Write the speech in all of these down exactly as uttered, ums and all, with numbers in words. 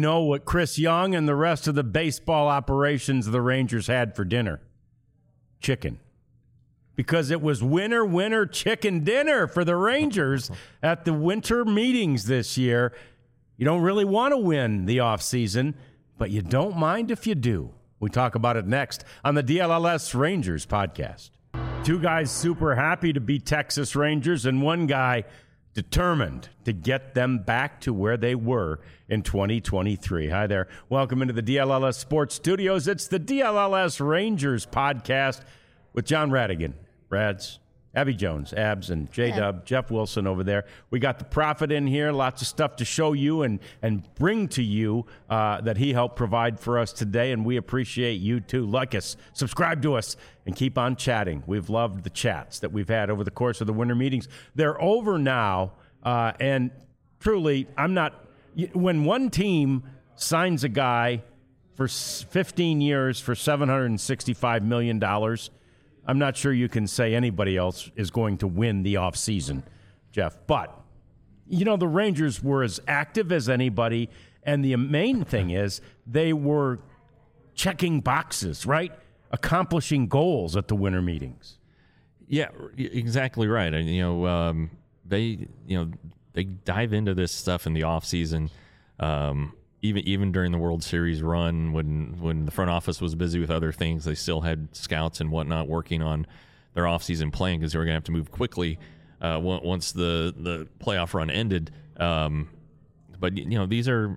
know what Chris Young and the rest of the baseball operations of the Rangers had for dinner. Chicken. Because it was winner, winner, chicken dinner for the Rangers at the winter meetings this year. You don't really want to win the offseason, but you don't mind if you do. We talk about it next on the D L L S Rangers podcast. Two guys super happy to be Texas Rangers and one guy determined to get them back to where they were in twenty twenty-three. Hi there. Welcome into the D L L S Sports Studios. It's the D L L S Rangers podcast with John Radigan. Rads, Abby Jones, Abs, and J-Dub, Jeff Wilson over there. We got the Prophet in here. Lots of stuff to show you and, and bring to you uh, that he helped provide for us today, and we appreciate you too. Like us, subscribe to us, and keep on chatting. We've loved the chats that we've had over the course of the winter meetings. They're over now, uh, and truly, I'm not – when one team signs a guy for fifteen years for seven hundred sixty-five million dollars – I'm not sure you can say anybody else is going to win the offseason, Jeff. But, you know, the Rangers were as active as anybody, and the main thing is they were checking boxes, right? Accomplishing goals at the winter meetings. Yeah, exactly right. And, you know, um, they, you know, they dive into this stuff in the offseason. Um Even even during the World Series run, when when the front office was busy with other things, they still had scouts and whatnot working on their offseason plan because they were going to have to move quickly uh, once the, the playoff run ended. Um, but, you know, these are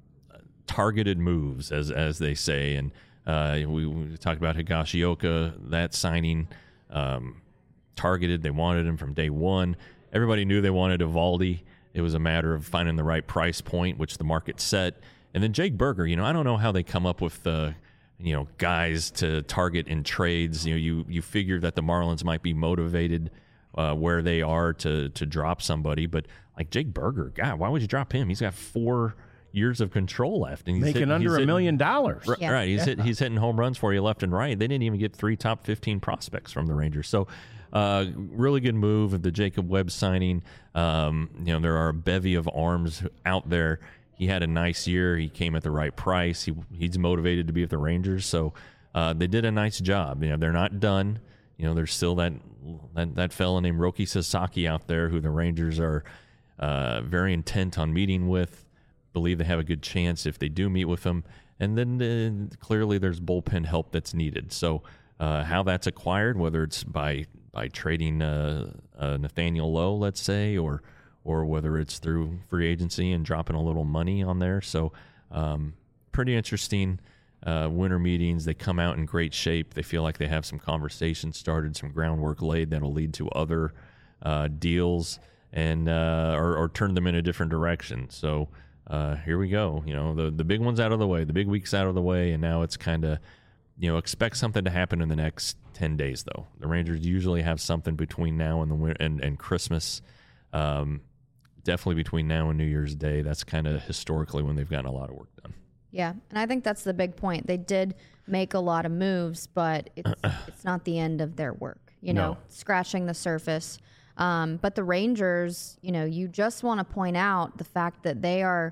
targeted moves, as as they say. And uh, we, we talked about Higashioka, that signing, um, targeted. They wanted him from day one. Everybody knew they wanted Eovaldi. It was a matter of finding the right price point, which the market set. And then Jake Burger, you know, I don't know how they come up with the, you know, guys to target in trades. You know, you you figure that the Marlins might be motivated uh, where they are to to drop somebody, but like Jake Burger, God, why would you drop him? He's got four years of control left, and he's making hit, under he's a hitting, million dollars. Right, yeah. right. He's yeah. hit, he's hitting home runs for you left and right. They didn't even get three top fifteen prospects from the Rangers, so. Uh, really good move, the Jacob Webb signing. Um, you know, there are a bevy of arms out there. He had a nice year. He came at the right price. He he's motivated to be with the Rangers, so uh, they did a nice job. You know, they're not done. You know, there's still that that, that fella named Roki Sasaki out there who the Rangers are uh, very intent on meeting with. Believe they have a good chance if they do meet with them. And then uh, clearly there's bullpen help that's needed. So uh, how that's acquired, whether it's by by trading uh, uh, Nathaniel Lowe, let's say, or or whether it's through free agency and dropping a little money on there. So um, pretty interesting uh, winter meetings. They come out in great shape. They feel like they have some conversations started, some groundwork laid that'll lead to other uh, deals and uh, or, or turn them in a different direction. So uh, here we go. You know, the the big one's out of the way, the big week's out of the way, and now it's kind of, you know, expect something to happen in the next ten days, though. The Rangers usually have something between now and the winter, and, and Christmas. Um, definitely between now and New Year's Day. That's kind of historically when they've gotten a lot of work done. Yeah, and I think that's the big point. They did make a lot of moves, but it's it's not the end of their work. You know, No. scratching the surface. Um, but the Rangers, you know, you just want to point out the fact that they are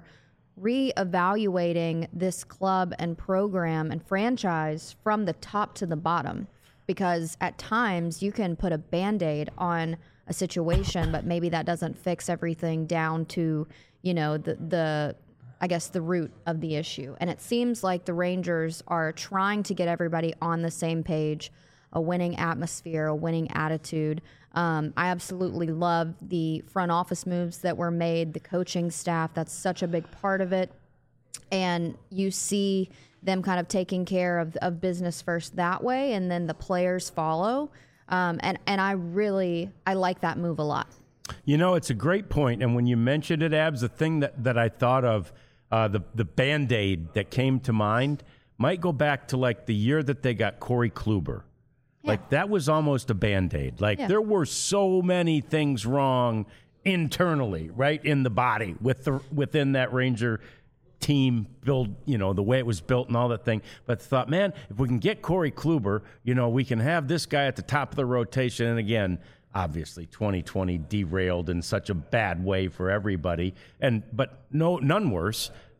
reevaluating this club and program and franchise from the top to the bottom, because at times you can put a Band-Aid on a situation, but maybe that doesn't fix everything down to, you know, the, the, I guess, the root of the issue. And it seems like the Rangers are trying to get everybody on the same page, a winning atmosphere, a winning attitude. Um, I absolutely love the front office moves that were made, the coaching staff. That's such a big part of it. And you see them kind of taking care of, of business first that way, and then the players follow. Um, and, and I really, I like that move a lot. You know, it's a great point. And when you mentioned it, Abs, the thing that, that I thought of, uh, the, the Band-Aid that came to mind might go back to like the year that they got Corey Kluber. Yeah. Like that was almost a Band-Aid. Like Yeah. there were so many things wrong internally, right, in the body with the within that Ranger team build, you know, the way it was built and all that thing. But thought, man, if we can get Corey Kluber, you know, we can have this guy at the top of the rotation. And again, obviously twenty twenty derailed in such a bad way for everybody. And but no, none worse.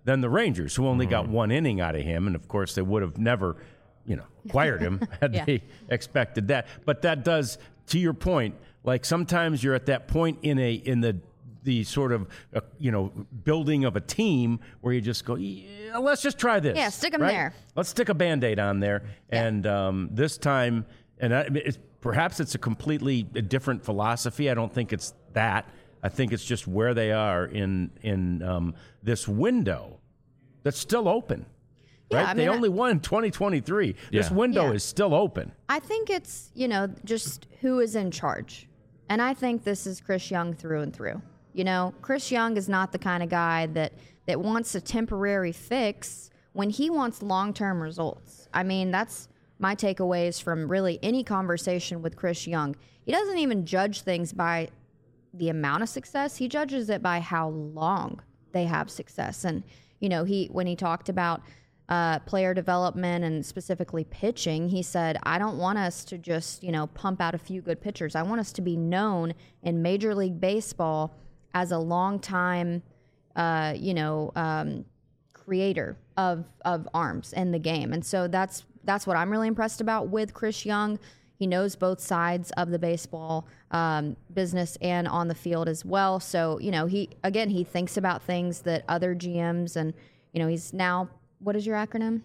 than the Rangers, who only mm-hmm. got one inning out of him. And, of course, they would have never, you know, acquired him had yeah. they expected that. But that does, to your point, like sometimes you're at that point in a in the the sort of, uh, you know, building of a team where you just go, yeah, let's just try this. Yeah, stick them right? there. Let's stick a Band-Aid on there. Yeah. And um, this time, and I, it's, perhaps it's a completely different philosophy. I don't think it's that. I think it's just where they are in in um, this window that's still open. Yeah, right? I mean, they I- only won in twenty twenty-three. This Yeah. window Yeah. is still open. I think it's, you know, just who is in charge. And I think this is Chris Young through and through. You know, Chris Young is not the kind of guy that, that wants a temporary fix when he wants long-term results. I mean, that's my takeaways from really any conversation with Chris Young. He doesn't even judge things by the amount of success. He judges it by how long they have success. And, you know, he when he talked about uh, player development and specifically pitching, he said, I don't want us to just, you know, pump out a few good pitchers. I want us to be known in Major League Baseball as a long-time, uh, you know, um, creator of of arms in the game. And so that's that's what I'm really impressed about with Chris Young. He knows both sides of the baseball um, business and on the field as well. So, you know, he, again, he thinks about things that other G Ms and, you know, he's now, what is your acronym?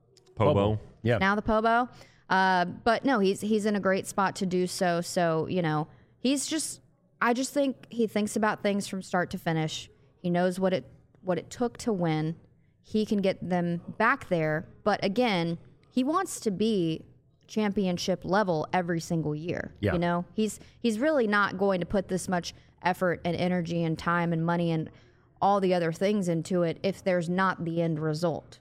Pobo. Yeah. Now the Pobo. Uh, but no, he's he's in a great spot to do so. So, you know, he's just, I just think he thinks about things from start to finish. He knows what it what it took to win. He can get them back there. But again, he wants to be championship level every single year. Yeah. You know, he's he's really not going to put this much effort and energy and time and money and all the other things into it if there's not the end result.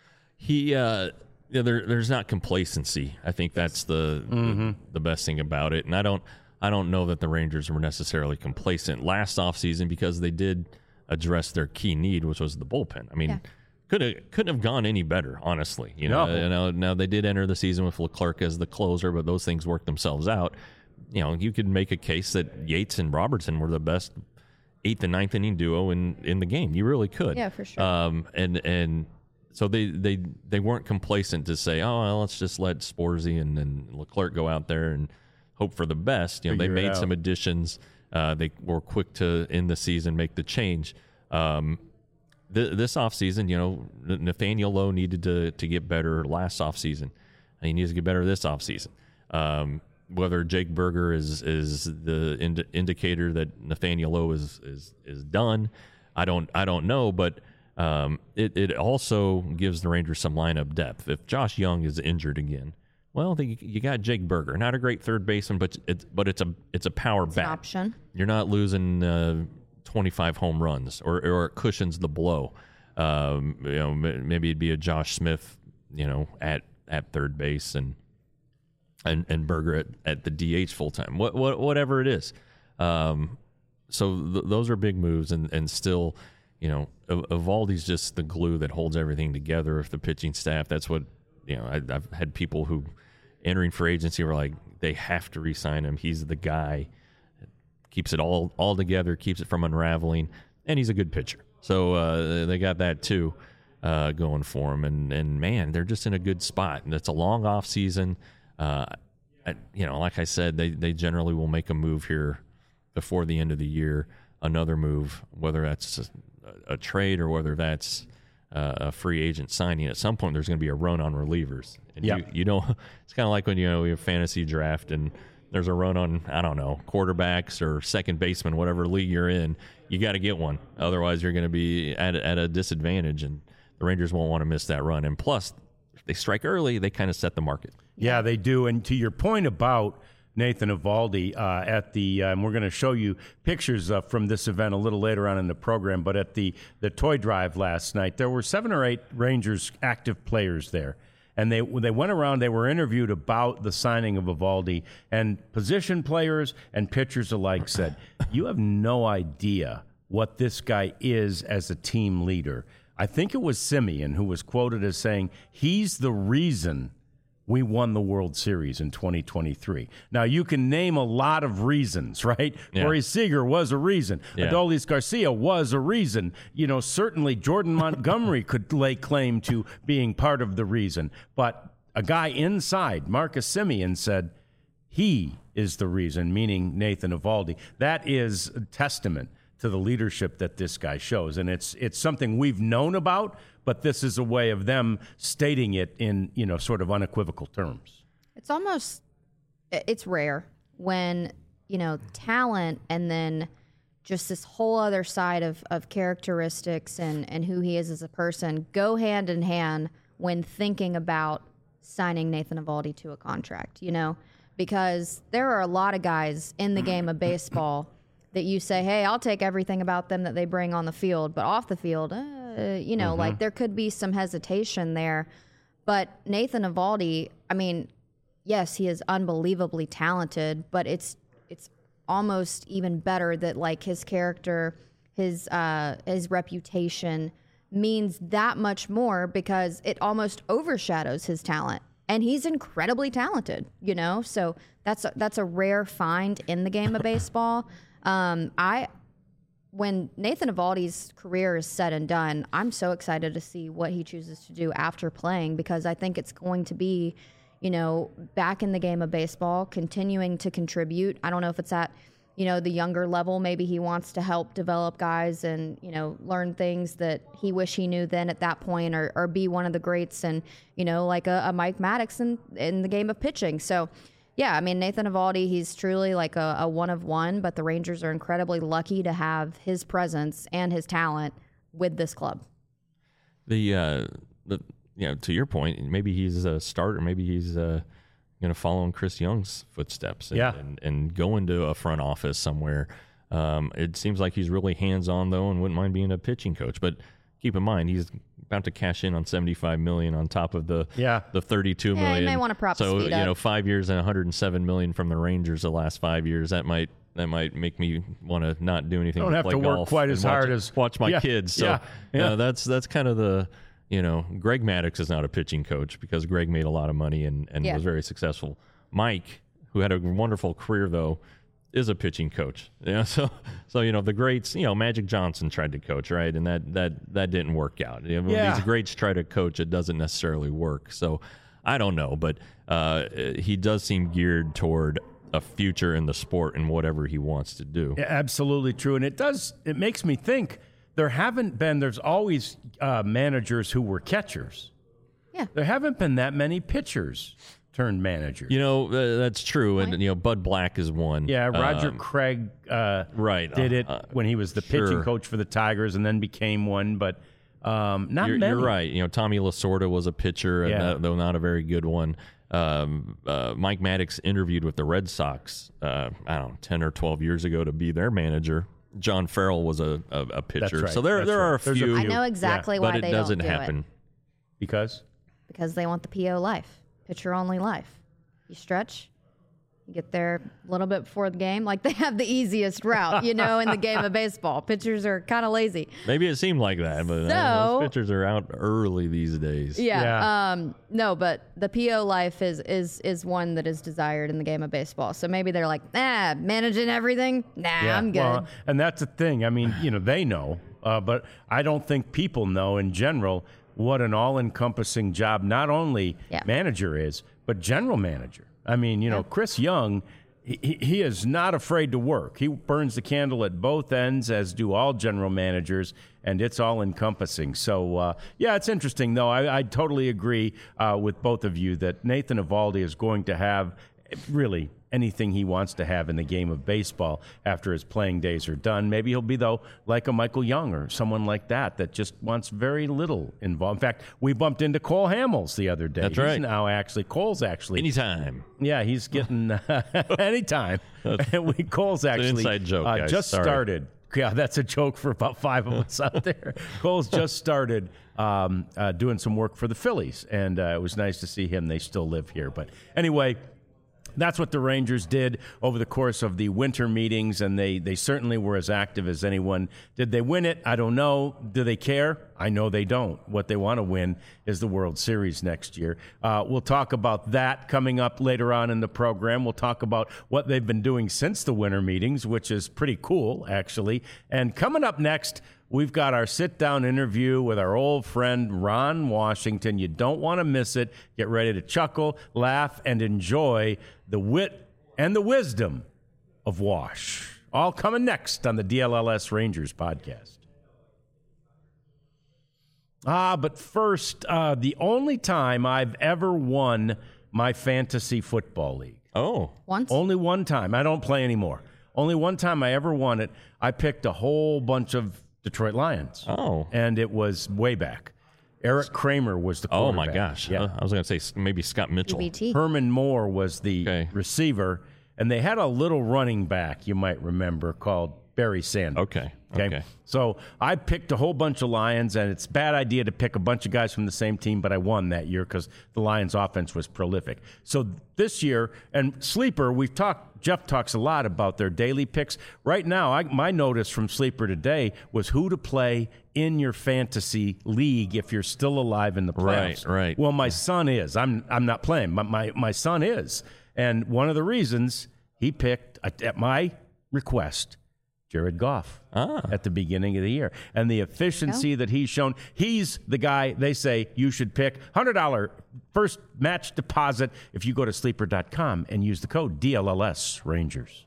He, uh, yeah, there, there's not complacency. I think that's the, Mm-hmm. the the best thing about it. And I don't, I don't know that the Rangers were necessarily complacent last offseason because they did address their key need, which was the bullpen. I mean, Yeah. could have couldn't have gone any better, honestly. You know, No. you know, now they did enter the season with Leclerc as the closer, but those things worked themselves out. You know, you could make a case that Yates and Robertson were the best eighth and ninth inning duo in, in the game. You really could. Yeah, for sure. Um, and and so they, they they weren't complacent to say, oh, well, let's just let Sporzy and, and Leclerc go out there and hope for the best. You know, Figure it they made out. some additions. Uh, they were quick to end the season, make the change. Um, th- this offseason, you know, Nathaniel Lowe needed to to get better last offseason. And he needs to get better this offseason. Um, whether Jake Berger is is the ind- indicator that Nathaniel Lowe is is is done, I don't I don't know, but um, it it also gives the Rangers some lineup depth. If Josh Young is injured again, well, the, you got Jake Berger, not a great third baseman, but it's but it's a it's a power It's an bat. option. You're not losing uh, twenty-five home runs, or or it cushions the blow. Um, you know, m- maybe it'd be a Josh Smith, you know, at at third base and. And, and Berger at, at the D H full time, what, what whatever it is. Um, so th- those are big moves, and, and still, you know, Ev- Evaldi's just the glue that holds everything together. If the pitching staff, that's what you know. I, I've had people who entering free agency were like, they have to re-sign him. He's the guy, keeps it all all together, keeps it from unraveling, and he's a good pitcher. So uh, they got that too uh, going for him, and and man, they're just in a good spot. And it's a long off season. Uh, I, you know, like I said, they, they generally will make a move here before the end of the year, another move, whether that's a, a trade or whether that's uh, a free agent signing. At some point, there's going to be a run on relievers. And Yeah. you, you don't, it's kind of like when, you know, you have fantasy draft and there's a run on, I don't know, quarterbacks or second baseman, whatever league you're in, you got to get one. Otherwise, you're going to be at, at a disadvantage, and the Rangers won't want to miss that run. And plus, if they strike early, they kind of set the market. Yeah, they do. And to your point about Nathan Eovaldi, uh, at the, um, we're going to show you pictures uh, from this event a little later on in the program, but at the, the toy drive last night, there were seven or eight Rangers active players there. And they they went around, they were interviewed about the signing of Eovaldi, and position players and pitchers alike said, you have no idea what this guy is as a team leader. I think it was Simeon who was quoted as saying, he's the reason we won the World Series in twenty twenty-three. Now, you can name a lot of reasons, right? Yeah. Corey Seager was a reason. Yeah. Adolis Garcia was a reason. You know, certainly Jordan Montgomery could lay claim to being part of the reason. But a guy inside, Marcus Semien, said he is the reason, meaning Nathan Eovaldi. That is a testament to the leadership that this guy shows. And it's it's something we've known about, but this is a way of them stating it in, you know, sort of unequivocal terms. It's almost, it's rare when, you know, talent and then just this whole other side of, of characteristics and, and who he is as a person go hand in hand when thinking about signing Nathan Eovaldi to a contract, you know, because there are a lot of guys in the game of baseball that you say, hey, I'll take everything about them that they bring on the field, but off the field, uh, you know, mm-hmm. like there could be some hesitation there. But Nathan Eovaldi, I mean, yes, he is unbelievably talented, but it's it's almost even better that like his character, his uh, his reputation means that much more because it almost overshadows his talent. And he's incredibly talented, you know? So that's a, that's a rare find in the game of baseball. Um, I, when Nathan Eovaldi's career is said and done, I'm so excited to see what he chooses to do after playing because I think it's going to be, you know, back in the game of baseball, continuing to contribute. I don't know if it's at, you know, the younger level. Maybe he wants to help develop guys and, you know, learn things that he wish he knew then at that point or, or be one of the greats and, you know, like a, a Mike Maddox in, in the game of pitching. So, yeah, I mean, Nathan Eovaldi, he's truly like a, a one of one, but the Rangers are incredibly lucky to have his presence and his talent with this club. The, uh, the you know, to your point, maybe he's a starter, maybe he's uh, going to follow in Chris Young's footsteps and, yeah. and, and go into a front office somewhere. Um, it seems like he's really hands-on, though, and wouldn't mind being a pitching coach. But keep in mind, he's about to cash in on seventy-five million dollars on top of the yeah. the thirty-two million dollars. Yeah, you may want to prop so speed you up. know, five years and one hundred seven million dollars from the Rangers the last five years. That might that might make me want to not do anything. Don't but have play to work golf quite and as watch, hard as watch my yeah, kids. So yeah, yeah. Uh, that's that's kind of the you know Greg Maddux is not a pitching coach because Greg made a lot of money and and yeah. was very successful. Mike, who had a wonderful career though, is a pitching coach. You know, so so you know the greats. You know, Magic Johnson tried to coach, right, and that that that didn't work out. You know, when Yeah. these greats try to coach, it doesn't necessarily work. So I don't know, but uh, he does seem geared toward a future in the sport and whatever he wants to do. Yeah, absolutely true. And it does, it makes me think there haven't been, there's always uh, managers who were catchers. Yeah. There haven't been that many pitchers turned managers. You know, uh, that's true. And, you know, Bud Black is one. Yeah, Roger Um, Craig uh, right. did Uh, it uh, when he was the sure. pitching coach for the Tigers and then became one, but um, not You're, many. you're right. You know, Tommy Lasorda was a pitcher, Yeah. and that, though not a very good one. Um, uh, Mike Maddox interviewed with the Red Sox, uh, I don't know, ten or twelve years ago to be their manager. John Farrell was a, a, a pitcher. right. So there, That's there are right. a There's a few, I know exactly Yeah. why but it they doesn't don't do happen. it. Because? Because they want the P O life, pitcher only life. You stretch, you get there a little bit before the game. Like they have the easiest route, you know, in the game of baseball. Pitchers are kind of lazy. Maybe it seemed like that, but uh, So- those pitchers are out early these days. Yeah. Yeah. Um, no, but the P O life is is is one that is desired in the game of baseball. So maybe they're like, ah, managing everything. Nah, I'm good. Well, and that's the thing. I mean, you know, they know, uh, but I don't think people know in general what an all-encompassing job not only Yeah. manager is, but general manager. I mean, you know, Chris Young, he, he is not afraid to work. He burns the candle at both ends, as do all general managers, and it's all-encompassing. So, uh, yeah, it's interesting, though. I, I totally agree uh, with both of you that Nathan Eovaldi is going to have really anything he wants to have in the game of baseball after his playing days are done. Maybe he'll be, though, like a Michael Young or someone like that that just wants very little involved. In fact, we bumped into Cole Hamels the other day. That's He's right. now actually, Cole's actually. Anytime. Yeah, he's getting uh, anytime. we, Cole's actually inside joke, uh, guys. just Sorry. started. Yeah, that's a joke for about five of us out there. Cole's just started um, uh, doing some work for the Phillies, and uh, it was nice to see him. They still live here. But anyway, That's what the Rangers did over the course of the winter meetings, and they, they certainly were as active as anyone. Did they win it? I don't know. Do they care? I know they don't. What they want to win is the World Series next year. Uh, we'll talk about that coming up later on in the program. We'll talk about what they've been doing since the winter meetings, which is pretty cool, actually. And coming up next, we've got our sit-down interview with our old friend Ron Washington. You don't want to miss it. Get ready to chuckle, laugh, and enjoy the wit and the wisdom of Wash. All coming next on the D L L S Rangers podcast. Ah, but first, uh, the only time I've ever won my fantasy football league. Oh. Once? Only one time. I don't play anymore. Only one time I ever won it. I picked a whole bunch of Detroit Lions. Oh. And it was way back. Eric Kramer was the quarterback. Oh, my gosh. Yeah. Uh, I was going to say maybe Scott Mitchell. U B T. Herman Moore was the Okay. receiver, and they had a little running back, you might remember, called Barry Sanders. Okay. Okay. Okay. So I picked a whole bunch of Lions, and it's a bad idea to pick a bunch of guys from the same team, but I won that year because the Lions' offense was prolific. So this year, and Sleeper, we've talked, Jeff talks a lot about their daily picks. Right now, I, my notice from Sleeper today was who to play in your fantasy league if you're still alive in the playoffs. Right, right. Well, my son is. I'm I'm not playing. My, my, my son is. And one of the reasons he picked, at my request, Jared Goff Ah. at the beginning of the year. And the efficiency that he's shown, he's the guy they say you should pick. one hundred dollars first match deposit if you go to sleeper dot com and use the code D L L S Rangers.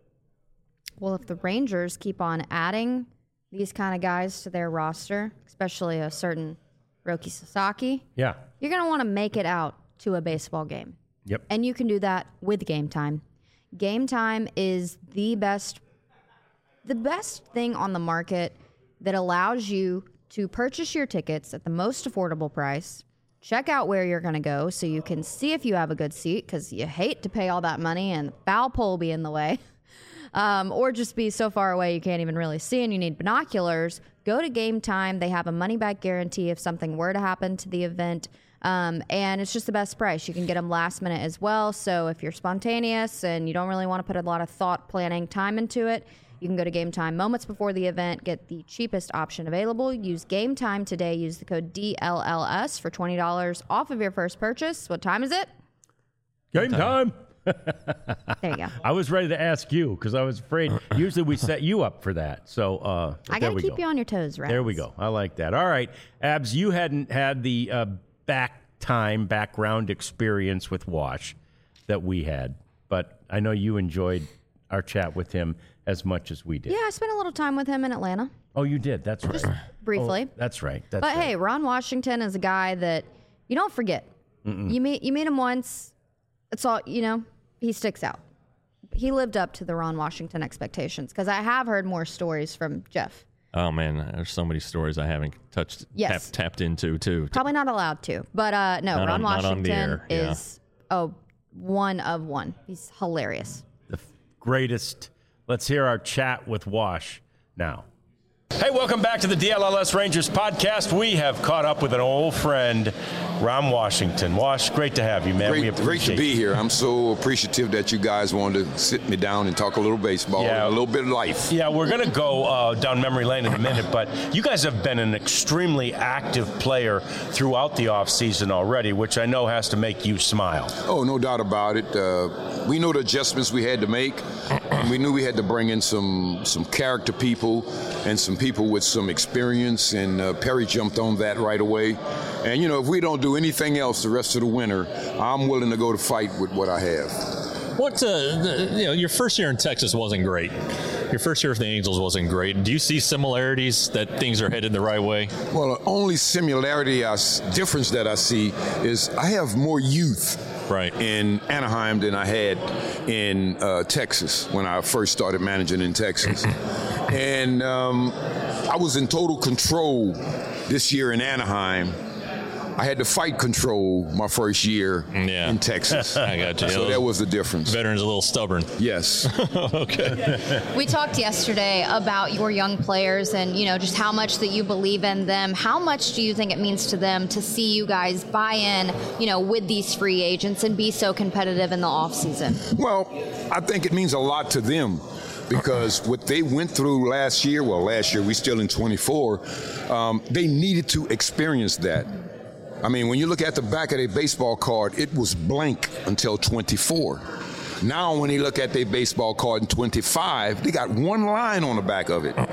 Well, if the Rangers keep on adding these kind of guys to their roster, especially a certain Roki Sasaki, Yeah. you're going to want to make it out to a baseball game. Yep. And you can do that with Game Time. Game Time is the best the best thing on the market that allows you to purchase your tickets at the most affordable price, check out where you're going to go so you can see if you have a good seat, because you hate to pay all that money and the foul pole be in the way, um, or just be so far away you can't even really see and you need binoculars. Go to Game Time. They have a money-back guarantee if something were to happen to the event. Um, and it's just the best price. You can get them last minute as well. So if you're spontaneous and you don't really want to put a lot of thought, planning, time into it, you can go to Game Time moments before the event, get the cheapest option available. Use Game Time today. Use the code D L L S for twenty dollars off of your first purchase. What time is it? Game time. There you go. I was ready to ask you because I was afraid. Usually we set you up for that. So uh, I there got to we keep go. you on your toes, right? There we go. I like that. All right. Abs, you hadn't had the uh, back time, background experience with Wash that we had, but I know you enjoyed our chat with him as much as we did. Yeah, I spent a little time with him in Atlanta, Oh, you did. That's right. briefly. Oh, that's right. That's But right. hey, Ron Washington is a guy that you don't forget. You meet you meet him once, it's all, you know, he sticks out. He lived up to the Ron Washington expectations, because I have heard more stories from Jeff. Oh, man. There's so many stories I haven't touched, Yes. tap, tapped into, too. Probably not allowed to, but uh, no, Not Ron on- not on the Washington air, yeah. is oh one of one. He's hilarious. the f- greatest. Let's hear our chat with Wash now. Hey, welcome back to the D L L S Rangers podcast. We have caught up with an old friend, Ron Washington. Wash, great to have you, man. we Great, great appreciate to be it. here. I'm so appreciative that you guys wanted to sit me down and talk a little baseball, Yeah. and a little bit of life. Yeah, we're going to go uh, down memory lane in a minute, but you guys have been an extremely active player throughout the offseason already, which I know has to make you smile. Oh, no doubt about it. Uh, we know the adjustments we had to make. We knew we had to bring in some some character people and some people with some experience, and uh, Perry jumped on that right away. And, you know, if we don't do anything else the rest of the winter, I'm willing to go to fight with what I have. What, uh, the, you know, your first year in Texas wasn't great. Your first year with the Angels wasn't great. Do you see similarities that things are headed the right way? Well, the only similarity, I, s- difference that I see is I have more youth Right. in Anaheim than I had in uh, Texas when I first started managing in Texas. And um, I was in total control this year in Anaheim I had to fight control my first year Yeah. in Texas. I got you. So Those that was the difference. Veterans a little stubborn. Yes. Okay. We talked yesterday about your young players and, you know, just how much that you believe in them. How much do you think it means to them to see you guys buy in, you know, with these free agents and be so competitive in the offseason? Well, I think it means a lot to them because what they went through last year, well, last year, we still in twenty-four, um, they needed to experience that. I mean, when you look at the back of their baseball card, it was blank until twenty-four. Now, when you look at their baseball card in twenty-five, they got one line on the back of it.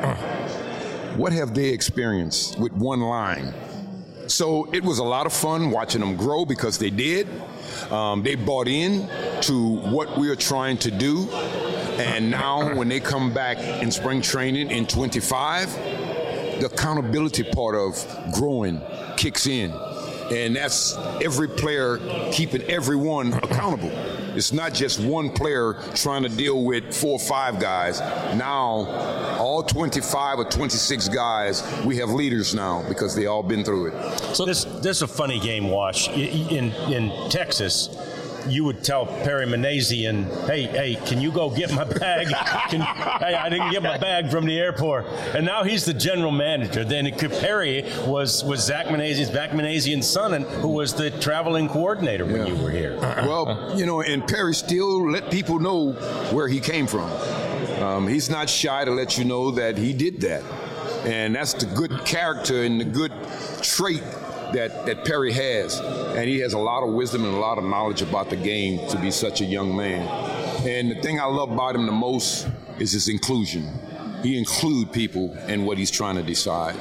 What have they experienced with one line? So it was a lot of fun watching them grow because they did. Um, they bought in to what we are trying to do. And now when they come back in spring training in twenty-five, the accountability part of growing kicks in. And that's every player keeping everyone accountable. It's not just one player trying to deal with four or five guys. Now, all twenty-five or twenty-six guys, we have leaders now because they all been through it. So this this is a funny game, Wash. In in Texas, you would tell Perry Manazian, hey, hey, can you go get my bag? Can, hey, I didn't get my bag from the airport. And now he's the general manager. Then Perry was, was Zach Manazian's, Zach Manazian's son, and who was the traveling coordinator when Yeah. you were here. Well, you know, and Perry still let people know where he came from. Um, he's not shy to let you know that he did that. And that's the good character and the good trait that, that Perry has. And he has a lot of wisdom and a lot of knowledge about the game to be such a young man. And the thing I love about him the most is his inclusion. He includes people in what he's trying to decide.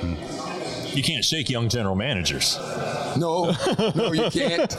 You can't shake young general managers. No, no, you can't.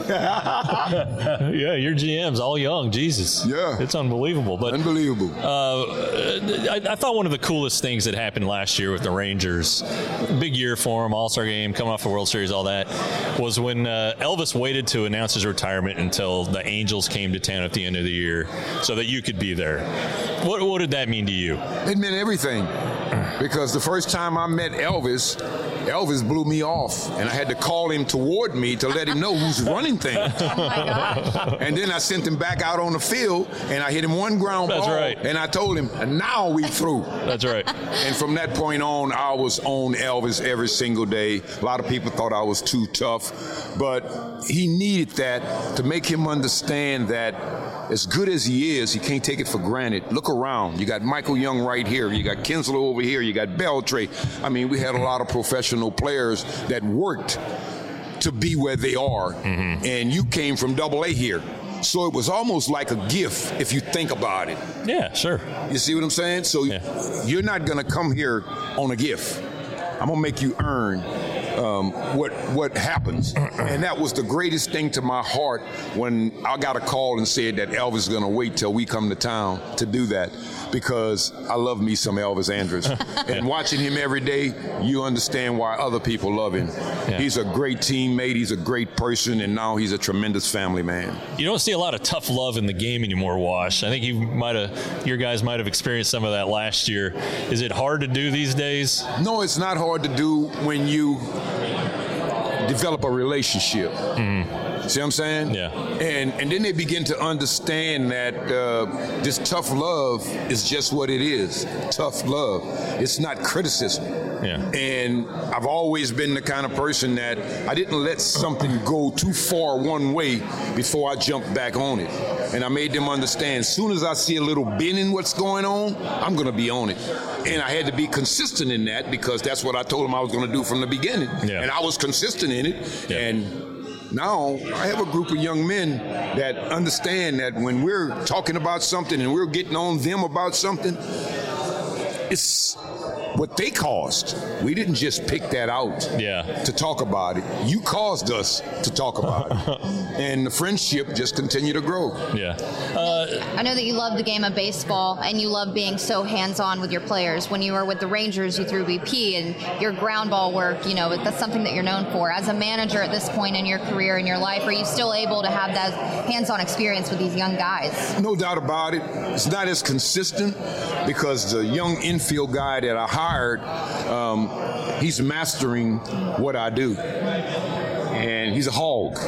Yeah, your G M's all young. Jesus. Yeah. It's unbelievable. But Unbelievable. Uh, I, I thought one of the coolest things that happened last year with the Rangers, big year for them, All-Star game, coming off the World Series, all that, was when uh, Elvis waited to announce his retirement until the Angels came to town at the end of the year so that you could be there. What, what did that mean to you? It meant everything. Because the first time I met Elvis, Elvis blew me off, and I had to call him toward me to let him know who's running things. Oh my gosh. And then I sent him back out on the field, and I hit him one ground That's ball, right. and I told him, and now we through. That's right. And from that point on, I was on Elvis every single day. A lot of people thought I was too tough, but he needed that to make him understand that as good as he is, he can't take it for granted. Look around. You got Michael Young right here. You got Kinsler over here. You got Beltre. I mean, we had a lot of professional players that worked to be where they are. Mm-hmm. And you came from double A here. So it was almost like a gift if you think about it. Yeah, sure. You see what I'm saying? So Yeah. you're not going to come here on a gift. I'm going to make you earn um, what what happens. And that was the greatest thing to my heart when I got a call and said that Elvis is going to wait till we come to town to do that, because I love me some Elvis Andrus. And watching him every day, you understand why other people love him. Yeah. He's a great teammate. He's a great person. And now he's a tremendous family man. You don't see a lot of tough love in the game anymore, Wash. I think you might have, your guys might have experienced some of that last year. Is it hard to do these days? No, it's not hard to do when you develop a relationship. Mm-hmm. See what I'm saying? Yeah. And and then they begin to understand that uh, this tough love is just what it is. Tough love. It's not criticism. Yeah. And I've always been the kind of person that I didn't let something go too far one way before I jumped back on it. And I made them understand, as soon as I see a little bend in what's going on, I'm going to be on it. And I had to be consistent in that, because that's what I told them I was going to do from the beginning. Yeah. And I was consistent in it. Yeah. And now I have a group of young men that understand that when we're talking about something and we're getting on them about something, it's what they caused. We didn't just pick that out Yeah. to talk about it. You caused us to talk about it. And the friendship just continued to grow. Yeah. Uh, I know that you love the game of baseball and you love being so hands-on with your players. When you were with the Rangers, you threw B P, and your ground ball work, you know, that's something that you're known for. As a manager at this point in your career, in your life, are you still able to have that hands-on experience with these young guys? No doubt about it. It's not as consistent because the young infield guy that I hired, um, he's mastering what I do. and he's a hog.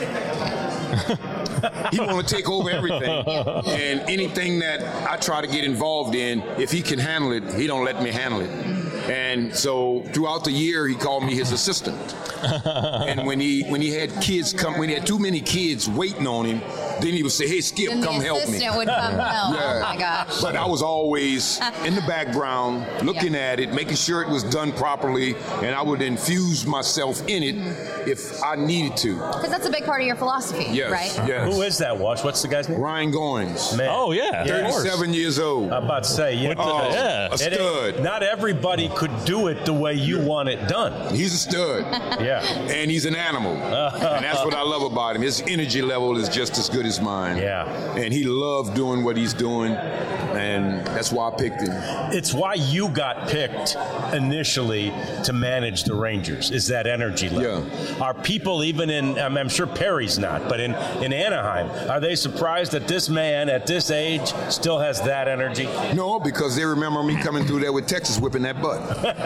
He want to take over everything, and anything that I try to get involved in, if he can handle it, he don't let me handle it. And so throughout the year, he called me his assistant. And when he when he had kids come, when he had too many kids waiting on him, then he would say, "Hey, Skip, Then come the help me." assistant would come help. Oh my gosh. But I was always in the background, looking Yeah. at it, making sure it was done properly, and I would infuse myself in it if I needed to. Because that's a big part of your philosophy, Yes, right? yes. Who is that, Wash? What's the guy's name? Ryan Goins, Man. Oh, yeah. Yeah. of course. thirty-seven years old. I'm about to say, yeah. Oh, yeah. a It ain't- stud. Not everybody could do it the way you want it done. He's a stud. Yeah. And he's an animal. And that's what I love about him. His energy level is just as good as mine. Yeah. And he loved doing what he's doing. And that's why I picked him. It's why you got picked initially to manage the Rangers, is that energy level. Yeah. Are people even in, I'm, I'm sure Perry's not, but in, in Anaheim, are they surprised that this man at this age still has that energy? No, because they remember me coming through there with Texas whipping that butt.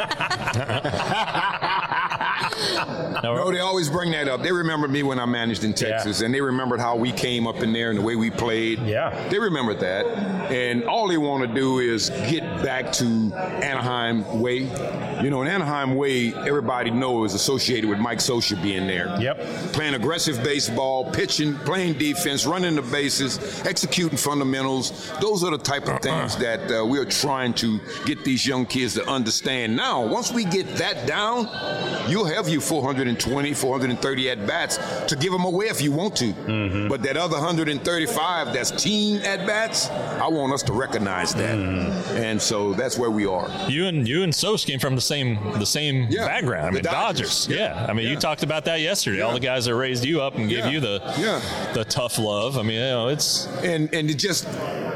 No, they always bring that up. They remembered me when I managed in Texas, Yeah. and they remembered how we came up in there and the way we played. Yeah. They remembered that. And all they want to do is get back to Anaheim way. You know, an Anaheim way, everybody knows, is associated with Mike Scioscia being there. Yep. Playing aggressive baseball, pitching, playing defense, running the bases, executing fundamentals. Those are the type of things that uh, we're trying to get these young kids to understand. Now, once we get that down, you'll have you four hundred twenty, four hundred thirty at-bats to give them away if you want to. Mm-hmm. But that other one hundred thirty-five that's team at-bats, I want us to recognize that. Mm-hmm. And so that's where we are. You and you and Sos came from the same the same Yeah, background. I the mean, Dodgers. Dodgers. Yeah. Yeah. I mean, Yeah. you talked about that yesterday. Yeah. All the guys that raised you up and gave Yeah. you the Yeah. the tough love. I mean, you know, it's and and it just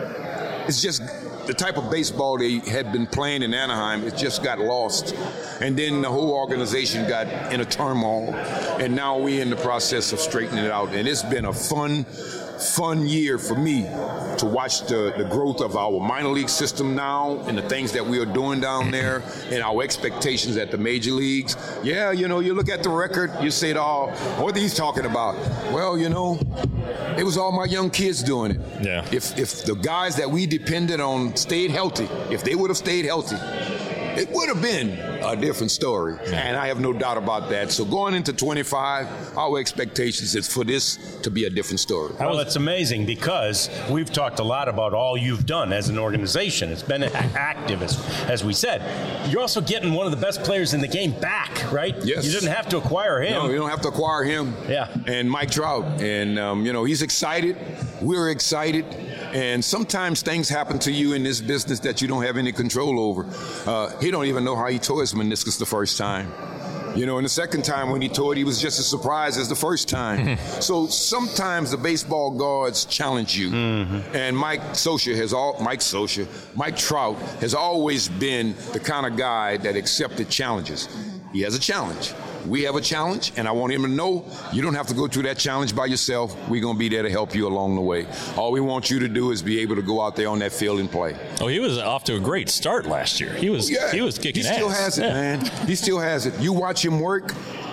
it's just the type of baseball they had been playing in Anaheim. It just got lost, and then the whole organization got in a turmoil, and now we're in the process of straightening it out. And it's been a fun fun year for me to watch the, the growth of our minor league system now and the things that we are doing down there and our expectations at the major leagues. Yeah, you know, you look at the record, you say, oh, what are these talking about? Well, you know, it was all my young kids doing it. Yeah. If if the guys that we depended on stayed healthy, if they would have stayed healthy, it would have been a different story. And I have no doubt about that. So going into twenty-five, our expectations is for this to be a different story. Well, it's amazing because we've talked a lot about all you've done as an organization. It's been active, as, as we said. You're also getting one of the best players in the game back, right? Yes. You didn't have to acquire him. No, you don't have to acquire him. Yeah. And Mike Trout. And, um, you know, he's excited. We're excited. And sometimes things happen to you in this business that you don't have any control over. Uh, he don't even know how he tore his meniscus the first time. You know, and the second time when he tore it, he was just as surprised as the first time. So sometimes the baseball gods challenge you. Mm-hmm. And Mike Scioscia has all Mike Scioscia, Mike Trout has always been the kind of guy that accepted challenges. He has a challenge. We have a challenge, and I want him to know you don't have to go through that challenge by yourself. We're going to be there to help you along the way. All we want you to do is be able to go out there on that field and play. oh, he was off to a great start last year. He was Yeah, he was kicking He ass. still has it, Yeah. man. He still has it. You watch him work,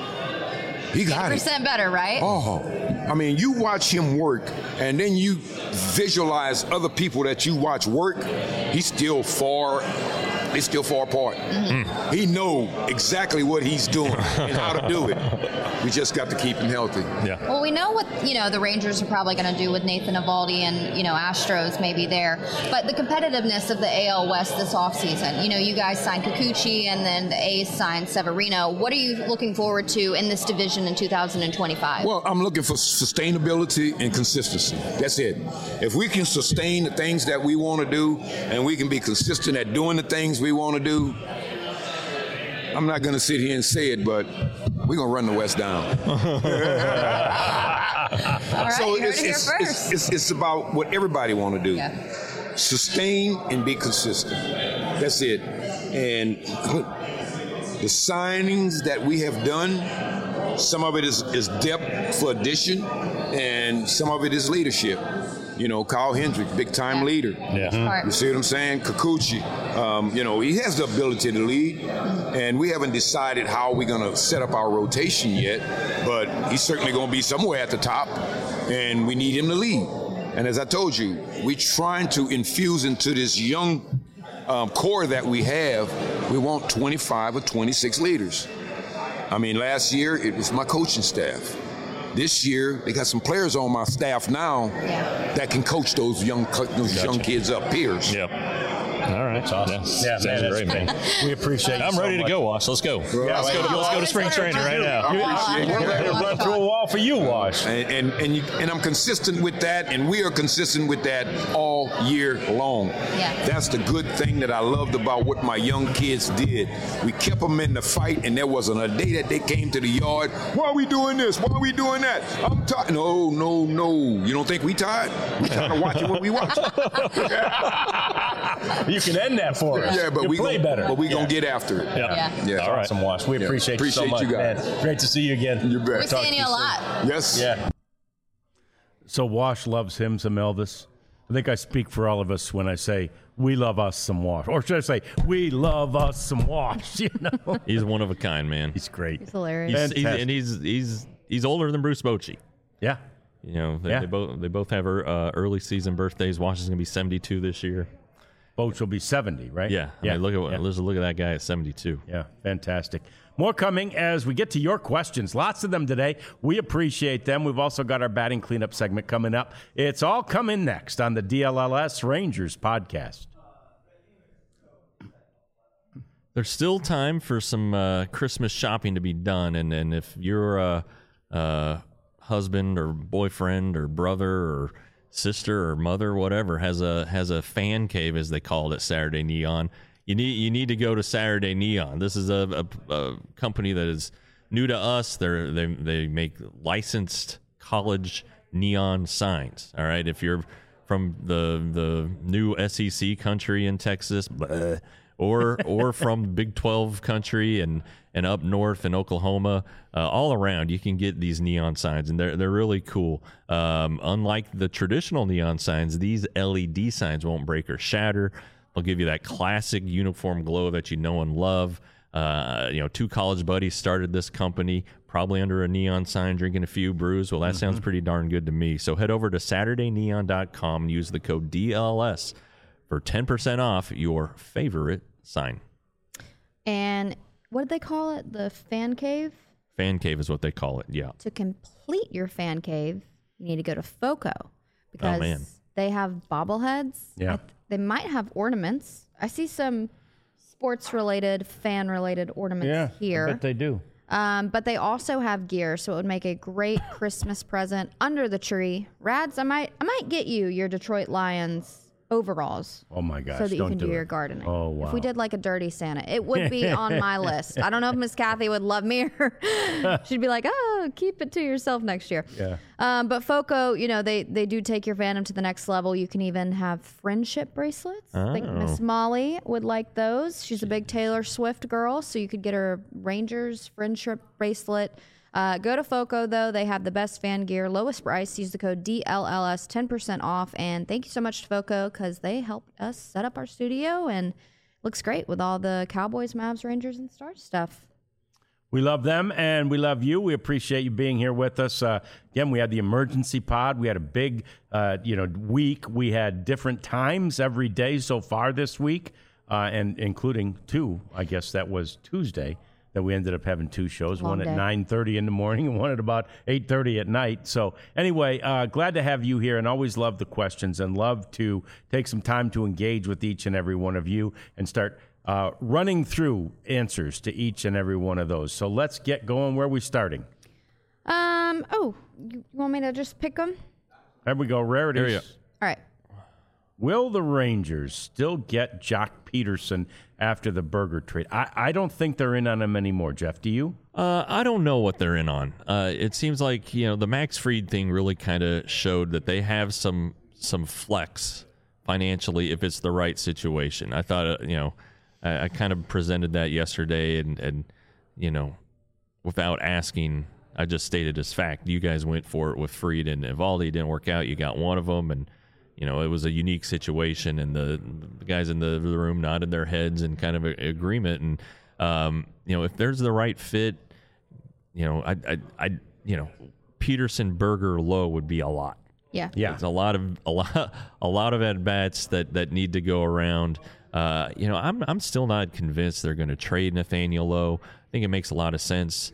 he got it. percent better, right? Oh, I mean, you watch him work, and then you visualize other people that you watch work. He's still far. They still far apart. Mm-hmm. He know exactly what he's doing and how to do it. We just got to keep him healthy. Yeah. Well, we know what, you know, the Rangers are probably going to do with Nathan Eovaldi and, you know, Astros maybe there. But the competitiveness of the A L West this offseason, you know, you guys signed Kikuchi and then the A's signed Severino. What are you looking forward to in this division in two thousand twenty-five? Well, I'm looking for sustainability and consistency. That's it. If we can sustain the things that we want to do and we can be consistent at doing the things we want to do, I'm not going to sit here and say it, but we're going to run the West down. All right, So you heard it's, it here it's, first. it's, it's, it's about what everybody want to do. Yeah. Sustain and be consistent. That's it. And the signings that we have done, some of it is, is depth for addition, and some of it is leadership. You know, Kyle Hendricks, big time leader. Yeah. All right. You see what I'm saying? Kikuchi, Um, you know, he has the ability to lead, and we haven't decided how we're going to set up our rotation yet, but he's certainly going to be somewhere at the top, and we need him to lead. And as I told you, we're trying to infuse into this young um, core that we have, we want twenty-five or twenty-six leaders. I mean, last year, it was my coaching staff. This year, they got some players on my staff now Yeah. that can coach those young those Gotcha. young kids up, peers. Yep. All right. That's awesome. Yeah, Yeah, sounds man, great, that's man. We appreciate you I'm so ready to much. go, Wash. Let's go. Yeah, let's go to let's go to spring training right now. I appreciate We're ready to run through a wall for you, Wash. And and and, you, and I'm consistent with that, and we are consistent with that all year long. Yeah. That's the good thing that I loved about what my young kids did. We kept them in the fight, and there wasn't a day that they came to the yard. Why are we doing this? Why are we doing that? I'm tired. No, no, no. You don't think we tired? We tired of watching what we watch. You can end that for us. Yeah, but you we play gonna, better. But we gonna get after it. Yeah. Yeah. Yeah. All right. Awesome, Wash. We Yeah. appreciate, you so Appreciate much, you guys. man. Great to see you again. You bet. We're Talk to seeing you a soon. lot. Yes. Yeah. So Wash loves him some Elvis. I think I speak for all of us when I say we love us some Wash, or should I say we love us some Wash? You know, He's one of a kind, man. he's great. It's hilarious. He's, he's, Fantastic. and he's he's he's older than Bruce Bochy. Yeah. You know, they, Yeah. they both they both have uh, early season birthdays. Wash is gonna be seventy-two this year. Boach will be seventy, right? Yeah, I Yeah. mean, look at yeah. let's look at that guy at seventy-two. Yeah, fantastic. More coming as we get to your questions. Lots of them today. We appreciate them. We've also got our batting cleanup segment coming up. It's all coming next on the D L L S Rangers podcast. There's still time for some uh, Christmas shopping to be done, and, and if you're a, a husband or boyfriend or brother or sister or mother, or whatever, has a has a fan cave, as they call it at Saturday Neon, you need you need to go to Saturday Neon. This is a, a, a company that is new to us. They're, they they make licensed college neon signs. All right, if you're from the the new S E C country in Texas, bleh, or or from Big twelve country and and up north in Oklahoma, uh, all around, you can get these neon signs, and they're they're really cool. Um, unlike the traditional neon signs, these L E D signs won't break or shatter. They'll give you that classic uniform glow that you know and love. Uh, you know, two college buddies started this company, probably under a neon sign, drinking a few brews. Well, that sounds pretty darn good to me. So head over to Saturday Neon dot com and use the code D L S for ten percent off your favorite sign. And what did they call it? The fan cave? Fan cave is what they call it. Yeah. To complete your fan cave, you need to go to FOCO because man. they have bobbleheads. Yeah. I th- they might have ornaments. I see some sports-related, fan-related ornaments here. I bet they do. Um, but they also have gear, so it would make a great Christmas present under the tree. Rads, I might, I might get you your Detroit Lions overalls. Oh my gosh! So that you don't can do, do your it. gardening. Oh wow! If we did like a dirty Santa, it would be on my list. I don't know if Miss Kathy would love me or she'd be like, "Oh, keep it to yourself next year." Yeah. Um, but FOCO, you know, they they do take your fandom to the next level. You can even have friendship bracelets. I think Miss Molly would like those. She's a big Taylor Swift girl, so you could get her Rangers friendship bracelet. Uh, go to FOCO, though. They have the best fan gear, lowest price. Use the code D L L S, ten percent off. And thank you so much to FOCO because they helped us set up our studio and it looks great with all the Cowboys, Mavs, Rangers, and Stars stuff. We love them and we love you. We appreciate you being here with us. Uh, again, we had the emergency pod. We had a big, uh, you know, week. We had different times every day so far this week, uh, and including two. I guess that was Tuesday that we ended up having two shows, Long one at day. nine thirty in the morning and one at about eight thirty at night. So anyway, uh, glad to have you here and always love the questions and love to take some time to engage with each and every one of you and start uh, running through answers to each and every one of those. So let's get going. Where are we starting? Um. Oh, you want me to just pick them? There we go. Rarities. There you go. All right. Will the Rangers still get Jock Peterson after the Berger trade? I, I don't think they're in on him anymore, Jeff. Do you? Uh, I don't know what they're in on. Uh, it seems like, you know, the Max Fried thing really kind of showed that they have some some flex financially if it's the right situation. I thought, uh, you know, I, I kind of presented that yesterday, and, and you know, without asking, I just stated as fact. You guys went for it with Fried and Evaldi. Didn't work out. You got one of them, and you know, it was a unique situation, and the, the guys in the, the room nodded their heads in kind of a, agreement. And um, you know, if there's the right fit, you know, I, I, I, you know, Peterson, Berger, Lowe would be a lot. Yeah, Yeah. It's a lot of a lot a lot of at bats that that need to go around. Uh, you know, I'm I'm still not convinced they're going to trade Nathaniel Lowe. I think it makes a lot of sense.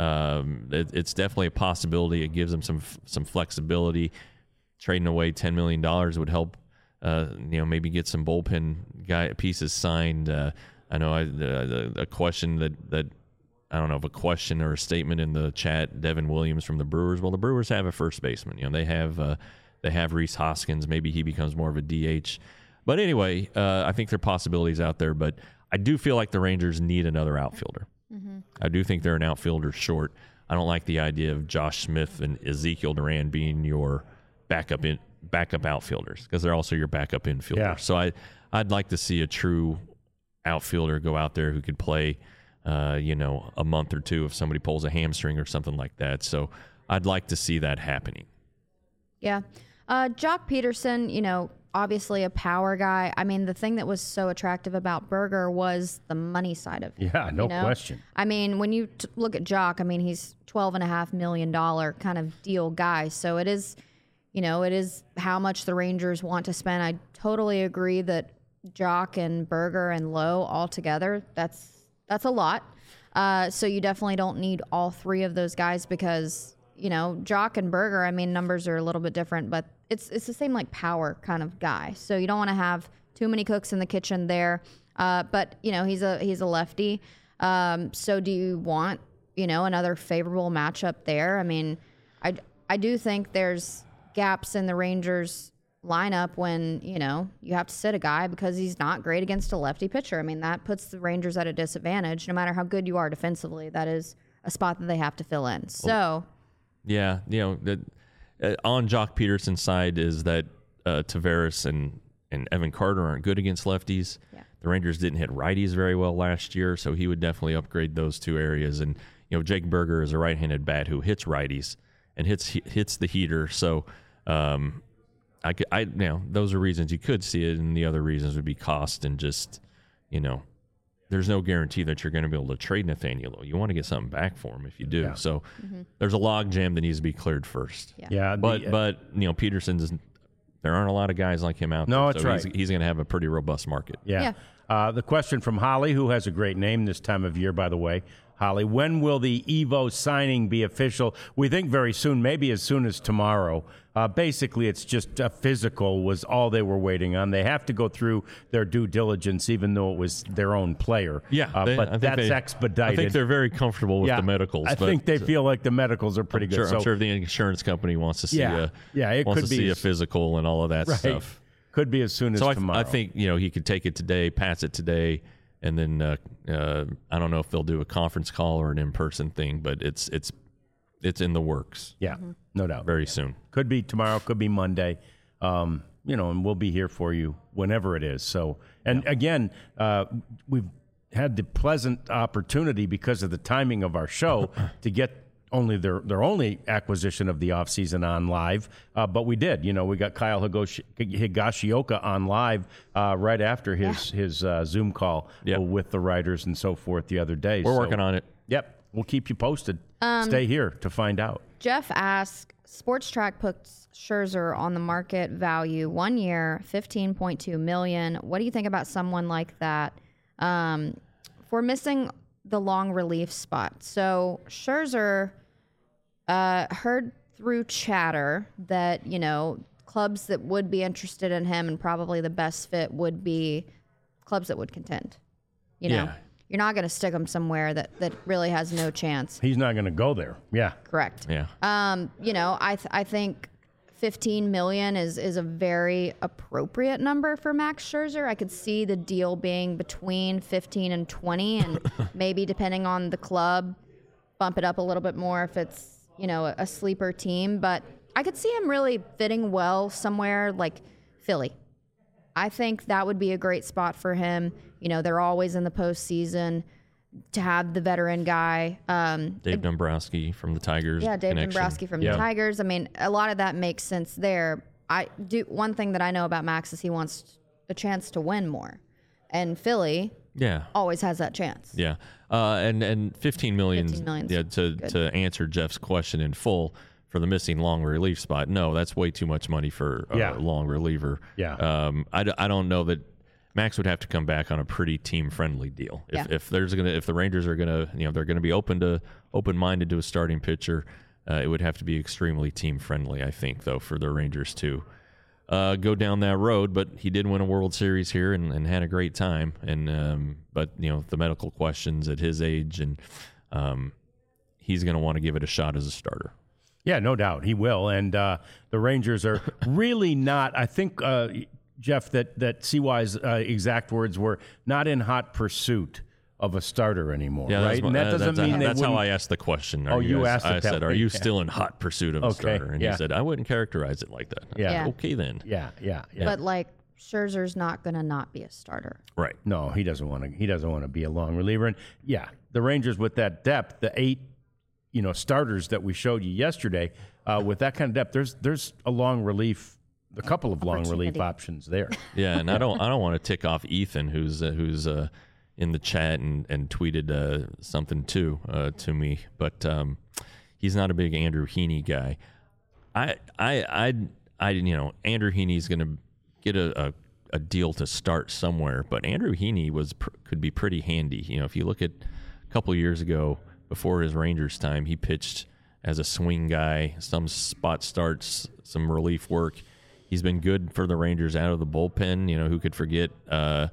Um, it, it's definitely a possibility. It gives them some some flexibility. Trading away ten million dollars would help. Uh, you know, maybe get some bullpen guy pieces signed. Uh, I know I, uh, a question that that I don't know if a question or a statement in the chat. Devin Williams from the Brewers. Well, the Brewers have a first baseman. You know, they have uh, they have Rhys Hoskins. Maybe he becomes more of a D H. But anyway, uh, I think there are possibilities out there. But I do feel like the Rangers need another outfielder. Mm-hmm. I do think they're an outfielder short. I don't like the idea of Josh Smith and Ezekiel Duran being your backup in backup outfielders, because they're also your backup infielders. Yeah. So I I'd like to see a true outfielder go out there who could play, uh, you know, a month or two if somebody pulls a hamstring or something like that. So I'd like to see that happening. Yeah. Uh, Jock Peterson, you know, obviously a power guy. I mean, the thing that was so attractive about Berger was the money side of it. Yeah, no you know? question. I mean, when you t- look at Jock, I mean, he's twelve and a half million dollar kind of deal guy. So it is, you know, it is how much the Rangers want to spend. I totally agree that Jock and Berger and Lowe all together, that's that's a lot. Uh, so you definitely don't need all three of those guys because, you know, Jock and Berger, I mean, numbers are a little bit different, but it's it's the same like power kind of guy. So you don't want to have too many cooks in the kitchen there. Uh, but you know, he's a he's a lefty. Um, so do you want, you know, another favorable matchup there? I mean, I I do think there's gaps in the Rangers lineup when, you know, you have to sit a guy because he's not great against a lefty pitcher. I mean, that puts the Rangers at a disadvantage. No matter how good you are defensively, that is a spot that they have to fill in. So, yeah, you know, the, uh, on Jock Peterson's side is that uh, Taveras and, and Evan Carter aren't good against lefties. Yeah. The Rangers didn't hit righties very well last year, so he would definitely upgrade those two areas. And, you know, Jake Berger is a right-handed bat who hits righties and hits hits the heater. So, um, I, could, I, you know, those are reasons you could see it, and the other reasons would be cost and just, you know, there's no guarantee that you're going to be able to trade Nathaniel. You want to get something back for him if you do. Yeah. So there's a log jam that needs to be cleared first. Yeah. Yeah, But the- but you know, Peterson's there aren't a lot of guys like him out No, there. that's so right. He's, he's going to have a pretty robust market. Yeah. Yeah. Uh, the question from Holly, who has a great name this time of year, by the way. Holly, when will the Evo signing be official? We think very soon, maybe as soon as tomorrow. Uh, basically, it's just a physical was all they were waiting on. They have to go through their due diligence, even though it was their own player. Yeah, uh, they- I but think that's they- expedited. I think they're very comfortable with yeah, the medicals. I but think they feel like the medicals are pretty I'm good. sure, so, I'm sure the insurance company wants to see Yeah. a Yeah, it wants could to be see a as- physical and all of that right. stuff. Could be as soon as So I, tomorrow. I think you know he could take it today, pass it today, and then uh, uh, I don't know if they'll do a conference call or an in-person thing, but it's it's it's in the works Yeah, no doubt. very soon. Could be tomorrow, could be Monday. Um, you know, and we'll be here for you whenever it is. So, and again, uh, we've had the pleasant opportunity because of the timing of our show to get only their, their only acquisition of the offseason on live. Uh, but we did, you know, we got Kyle Higashi, Higashioka on live uh, right after his, his uh, Zoom call Yep. with the writers and so forth the other day. We're So, working on it. Yep. We'll keep you posted. Um, Stay here to find out. Jeff asks, Sports Track puts Scherzer on the market value one year, fifteen point two million dollars. What do you think about someone like that? Um, for missing the long relief spot. So Scherzer uh, heard through chatter that, you know, clubs that would be interested in him and probably the best fit would be clubs that would contend. You know, Yeah. you're not going to stick him somewhere that, that really has no chance. He's not going to go there. Yeah. Correct. Yeah. Um, you know, I th- I think fifteen million is is a very appropriate number for Max Scherzer. I could see the deal being between fifteen and twenty, and maybe depending on the club, bump it up a little bit more if it's, you know, a, a sleeper team. But I could see him really fitting well somewhere like Philly. I think that would be a great spot for him. You know, they're always in the postseason. To have the veteran guy. Um, Dave Dombrowski from the Tigers. yeah, Dave connection. Dombrowski from Yeah. the Tigers. I mean, a lot of that makes sense there. I do one thing that I know about Max is he wants a chance to win more, and Philly Yeah. always has that chance. Yeah. Uh, and, and fifteen million, fifteen million's yeah, to, good. to answer Jeff's question in full for the missing long relief spot. No, that's way too much money for a Yeah. long reliever. Yeah. Um, I, d- I don't know that Max would have to come back on a pretty team friendly deal. If, Yeah. if there's going to, if the Rangers are going to, you know, they're going to be open to, open minded to a starting pitcher, uh, it would have to be extremely team friendly, I think, though, for the Rangers to uh, go down that road. But he did win a World Series here and, and had a great time. And, um, but, you know, the medical questions at his age, and um, he's going to want to give it a shot as a starter. Yeah, no doubt he will. And uh, the Rangers are really not. I think, uh, Jeff, that that C Y's uh, exact words were not in hot pursuit of a starter anymore, Yeah, that's right? my- and that uh, doesn't that's, mean they that's how wouldn't- I asked the question. Are Oh, you guys- asked it I that said, way, "Are you yeah. still in hot pursuit of a Okay, starter?" And yeah. he said, "I wouldn't characterize it like that." Yeah. Yeah. Okay, then. Yeah, yeah, yeah. But like Scherzer's not going to not be a starter. Right. No, he doesn't want to. He doesn't want to be a long reliever. And yeah, the Rangers with that depth, the eight, you know, starters that we showed you yesterday, uh, with that kind of depth, there's there's a long relief, a couple of long relief Opportunity. options there. Yeah, and I don't I don't want to tick off Ethan, who's uh, who's uh, in the chat and and tweeted uh, something too uh, to me, but um, he's not a big Andrew Heaney guy. I I I I you know Andrew Heaney's going to get a, a a deal to start somewhere, but Andrew Heaney was pr- could be pretty handy. You know, if you look at a couple of years ago before his Rangers time, he pitched as a swing guy, some spot starts, some relief work. He's been good for the Rangers out of the bullpen. You know, who could forget? Uh,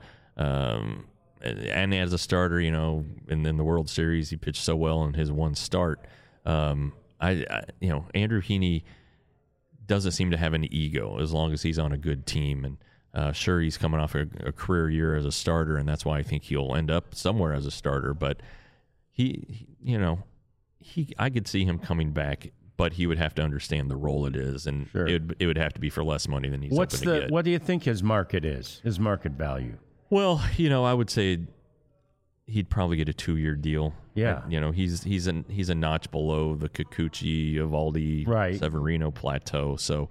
um, and as a starter, you know, and in the World Series, he pitched so well in his one start. Um, I, I, you know, Andrew Heaney doesn't seem to have an ego as long as he's on a good team. And uh, sure, he's coming off a, a career year as a starter, and that's why I think he'll end up somewhere as a starter. But he, he you know, he, I could see him coming back, but he would have to understand the role it is, and Sure. it, would, it would have to be for less money than he's What's hoping to the get. what do you think his market is? His market value? Well, you know, I would say he'd probably get a two-year deal. Yeah. you know, he's he's a he's a notch below the Kikuchi, Evaldi, Right. Severino plateau. So,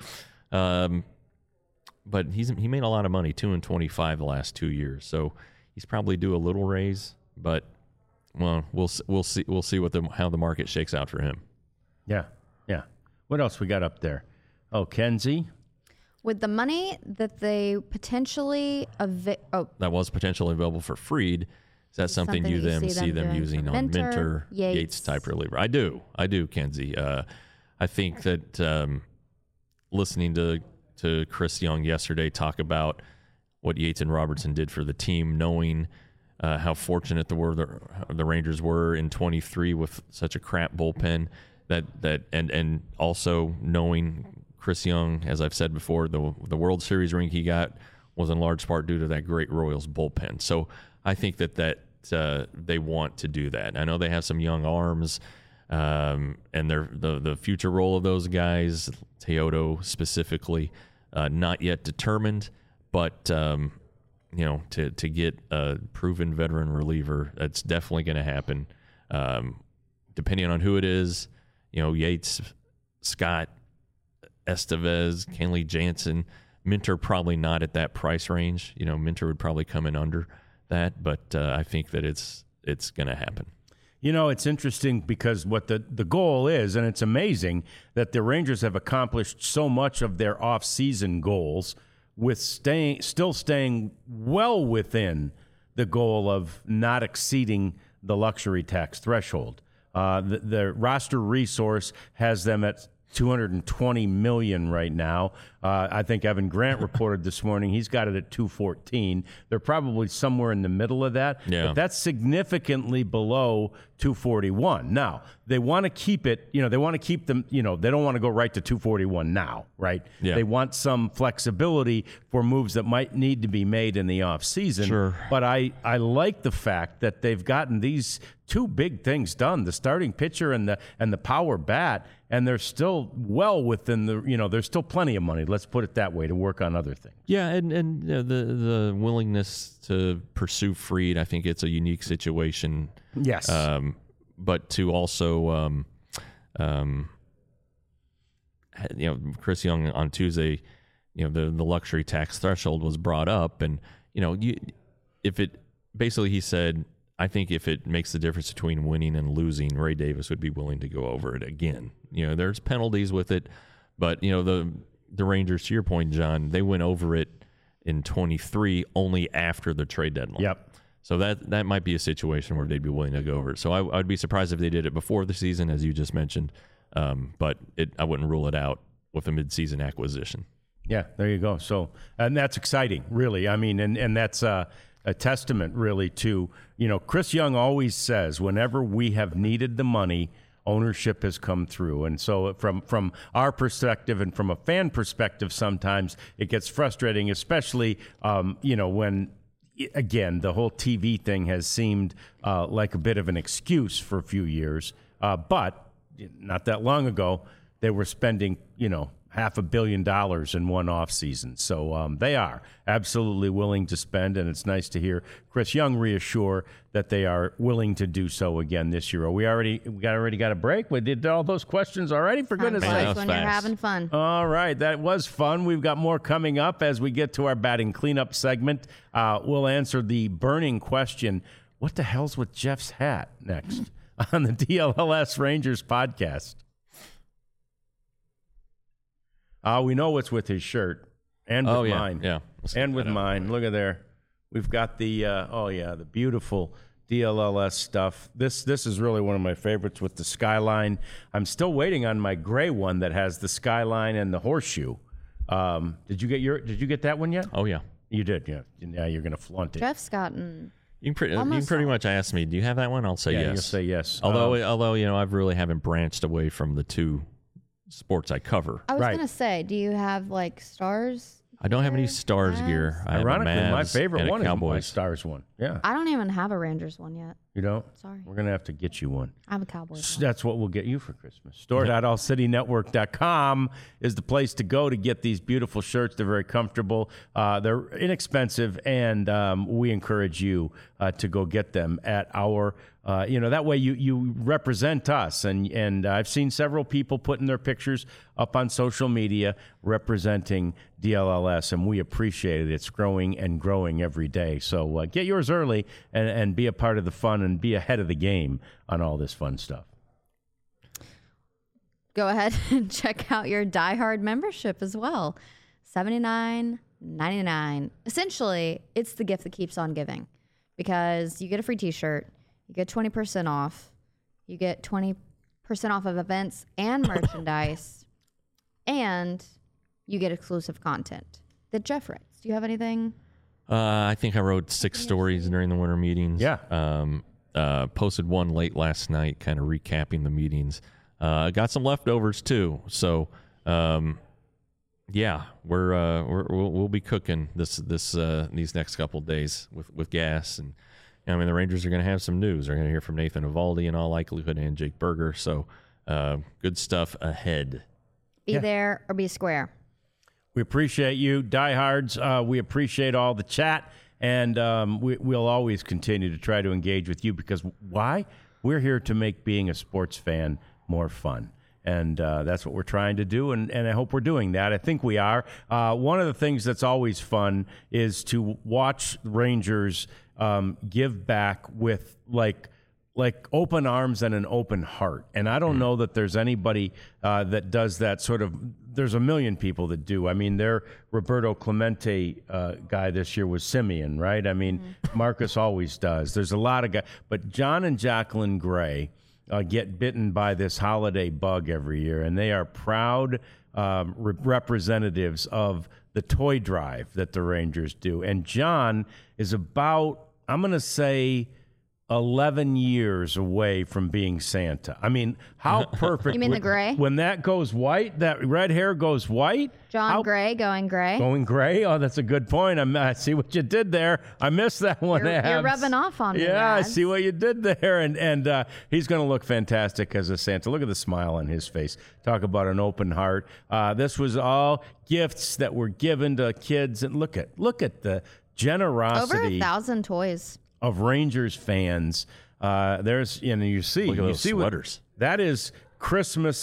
um, but he's he made a lot of money, two and twenty-five the last two years. So he's probably due a little raise, but well, we'll s- we'll see we'll see what the how the market shakes out for him. Yeah, yeah. What else we got up there? Oh, Kenzie. With the money that they potentially avi- oh, That was potentially available for Fried. Is that something, Something you you them see see them them doing using for on Minter, Minter, Yates. Yates. type reliever? I do, I do, Kenzie. Uh, I think that um, listening to to Chris Young yesterday talk about what Yates and Robertson did for the team, knowing uh, how fortunate the were the, the Rangers were in twenty-three with such a crap bullpen, that that and and also knowing Chris Young, as I've said before, the the World Series ring he got was in large part due to that great Royals bullpen. So I think that that uh, they want to do that. I know they have some young arms, um, and they're, the the future role of those guys, Teodo specifically, uh, not yet determined. But um, you know, to to get a proven veteran reliever, that's definitely going to happen. Um, depending on who it is, you know, Yates, Scott, Estevez, Kenley Jansen, Minter probably not at that price range. You know, Minter would probably come in under that, but uh, I think that it's it's going to happen. You know, it's interesting because what the, the goal is, and it's amazing that the Rangers have accomplished so much of their off-season goals with staying, still staying well within the goal of not exceeding the luxury tax threshold. Uh, the, the roster resource has them at two hundred twenty million dollars right now. Uh, I think Evan Grant reported this morning he's got it at two fourteen. They're probably somewhere in the middle of that, Yeah. but that's significantly below two forty-one. Now, they want to keep it, you know, they want to keep them, you know, they don't want to go right to two forty-one now, right? Yeah. They want some flexibility for moves that might need to be made in the offseason. Sure. But I, I like the fact that they've gotten these two big things done, the starting pitcher and the and the power bat, and they're still well within the, you know, there's still plenty of money, let's put it that way, to work on other things. Yeah, and and you know, the the willingness to pursue Fried, I think it's a unique situation. Yes. Um, but to also, um, um, you know, Chris Young on Tuesday you know, the the luxury tax threshold was brought up, and you know, you if it basically he said, I think if it makes the difference between winning and losing, Ray Davis would be willing to go over it again. You know, there's penalties with it, but you know, the the Rangers, to your point, John, they went over it in twenty-three only after the trade deadline. Yep. So that that might be a situation where they'd be willing to go over it. So I, I'd be surprised if they did it before the season, as you just mentioned, um, but it, I wouldn't rule it out with a midseason acquisition. Yeah, there you go. So, and that's exciting, really. I mean, and, and that's uh, a testament, really, to, you know, Chris Young always says, whenever we have needed the money, ownership has come through. And so from, from our perspective and from a fan perspective, sometimes it gets frustrating, especially, um, you know, when, again, the whole T V thing has seemed uh, like a bit of an excuse for a few years. Uh, but not that long ago, they were spending, you know, half a billion dollars in one off season. So um, they are absolutely willing to spend, and it's nice to hear Chris Young reassure that they are willing to do so again this year. Are we already we got already got a break? We did all those questions already? For goodness Sounds sake. like when fast. you're having fun. All right, that was fun. We've got more coming up as we get to our batting cleanup segment. Uh, we'll answer the burning question, what the hell's with Jeff's hat, next on the D L L S Rangers podcast. Uh, we know what's with his shirt and with Oh, yeah, mine. yeah. Let's And look with that up. mine. Look at there. We've got the, uh, oh, yeah, the beautiful D L L S stuff. This this is really one of my favorites with the skyline. I'm still waiting on my gray one that has the skyline and the horseshoe. Um, did you get your? Did you get that one yet? Oh, yeah. You did, yeah. Yeah, you're going to flaunt it. Jeff's gotten. You can, pre- you can Almost pretty all. much ask me, do you have that one? I'll say Yeah, yes. you'll say yes. Although, Um, although you know, I really haven't branched away from the two sports I cover. I was Right. gonna say, do you have like stars? I don't have any gear, Stars Mavs? gear. I have a Ironically, my Mavs favorite and a one is my Cowboys. Stars one. Yeah. I don't even have a Rangers one yet. You don't? Sorry. We're going to have to get you one. I'm a Cowboys one. That's what we'll get you for Christmas. store dot all city network dot com is the place to go to get these beautiful shirts. They're very comfortable. Uh, they're inexpensive, and um, we encourage you uh, to go get them at our, uh, you know, that way you, you represent us. And, and I've seen several people putting their pictures up on social media representing D L L S, and we appreciate it. It's growing and growing every day. So uh, get yours early and, and be a part of the fun and be ahead of the game on all this fun stuff. Go ahead and check out your Die Hard membership as well. seventy-nine ninety-nine. Essentially, it's the gift that keeps on giving, because you get a free t-shirt, you get twenty percent off, you get twenty percent off of events and merchandise, and you get exclusive content that Jeff writes. Do you have anything? Uh, I think I wrote six stories during the winter meetings. Yeah. Um, uh, posted one late last night, kind of recapping the meetings. Uh, got some leftovers too. So, um, yeah, we're, uh, we're we'll, we'll be cooking this this uh, these next couple days with with gas, and I mean the Rangers are going to have some news. They're going to hear from Nathan Eovaldi in all likelihood, and Jake Berger. So, uh, good stuff ahead. Be Yeah. there or be square. We appreciate you, diehards. Uh, we appreciate all the chat, and um, we, we'll always continue to try to engage with you, because why? We're here to make being a sports fan more fun. And uh, that's what we're trying to do, and, and I hope we're doing that. I think we are. Uh, one of the things that's always fun is to watch Rangers um, give back with, like, like open arms and an open heart. And I don't know that there's anybody uh, that does that sort of. There's a million people that do. I mean, their Roberto Clemente uh, guy this year was Simeon, right? I mean, mm-hmm. Marcus always does. There's a lot of guys. But John and Jacqueline Gray uh, get bitten by this holiday bug every year, and they are proud um, re- representatives of the toy drive that the Rangers do. And John is about, I'm going to say, eleven years away from being Santa. I mean, how perfect. You mean the when- gray? When that goes white, that red hair goes white. John how- Gray going gray. Going gray? Oh, that's a good point. I'm, I see what you did there. I missed that one. You're- you're Abs. rubbing off on me, Yeah, I Abs. see what you did there. And and uh, he's going to look fantastic as a Santa. Look at the smile on his face. Talk about an open heart. Uh, this was all gifts that were given to kids. And look at look at the Over generosity a thousand toys. of Rangers fans. Uh, there's, you know, you see, Look at you those see what- sweaters. that is Christmas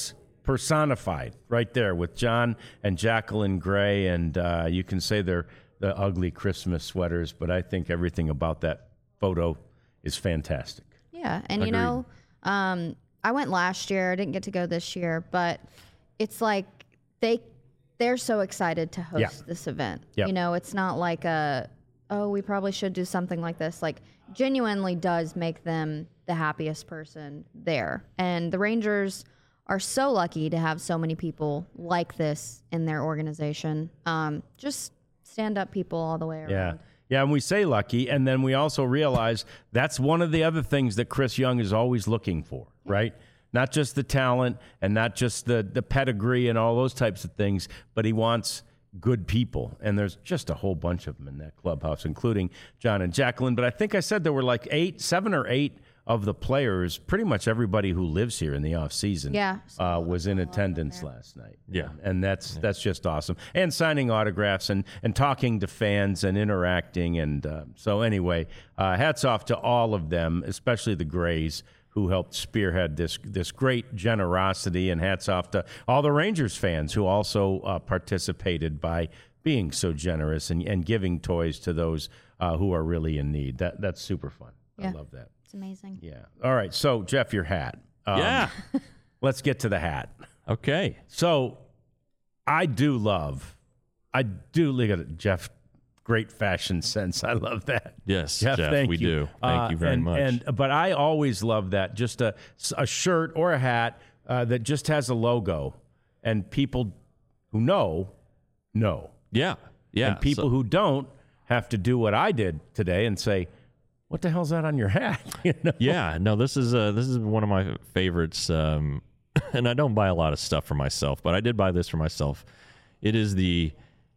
personified right there with John and Jacqueline Gray, and uh, you can say they're the ugly Christmas sweaters, but I think everything about that photo is fantastic. Yeah, and you Agreed. know, um, I went last year. I didn't get to go this year, but it's like they they're so excited to host Yeah. this event. Yep. You know, it's not like a oh, we probably should do something like this. Like, genuinely does make them the happiest person there, and the Rangers are so lucky to have so many people like this in their organization. Um, just stand-up people all the way around. Yeah. Yeah, and we say lucky, and then we also realize that's one of the other things that Chris Young is always looking for, right? Not just the talent and not just the, the pedigree and all those types of things, but he wants good people. And there's just a whole bunch of them in that clubhouse, including John and Jacqueline. But I think I said there were like eight, seven or eight of the players, pretty much everybody who lives here in the off season, Yeah. uh, was in attendance last night. Yeah. And that's that's just awesome. And signing autographs and, and talking to fans and interacting. And uh, so anyway, uh, hats off to all of them, especially the Grays, who helped spearhead this this great generosity. And hats off to all the Rangers fans who also uh, participated by being so generous and, and giving toys to those uh, who are really in need. That That's super fun. Yeah. I love that. It's amazing. Yeah. All right. So, Jeff, your hat. Um, Yeah. Let's get to the hat. Okay. So, I do love, I do look at it, Jeff. Great fashion sense. I love that. Yes, Jeff. Jeff, thank we you. do. Thank you very and, much. And but I always love that. Just a a shirt or a hat uh, that just has a logo, and people who know know, Yeah. Yeah. and people So- who don't have to do what I did today and say, "What the hell's that on your hat?" You know? Yeah, no, this is uh, this is one of my favorites, um, and I don't buy a lot of stuff for myself, but I did buy this for myself. It is the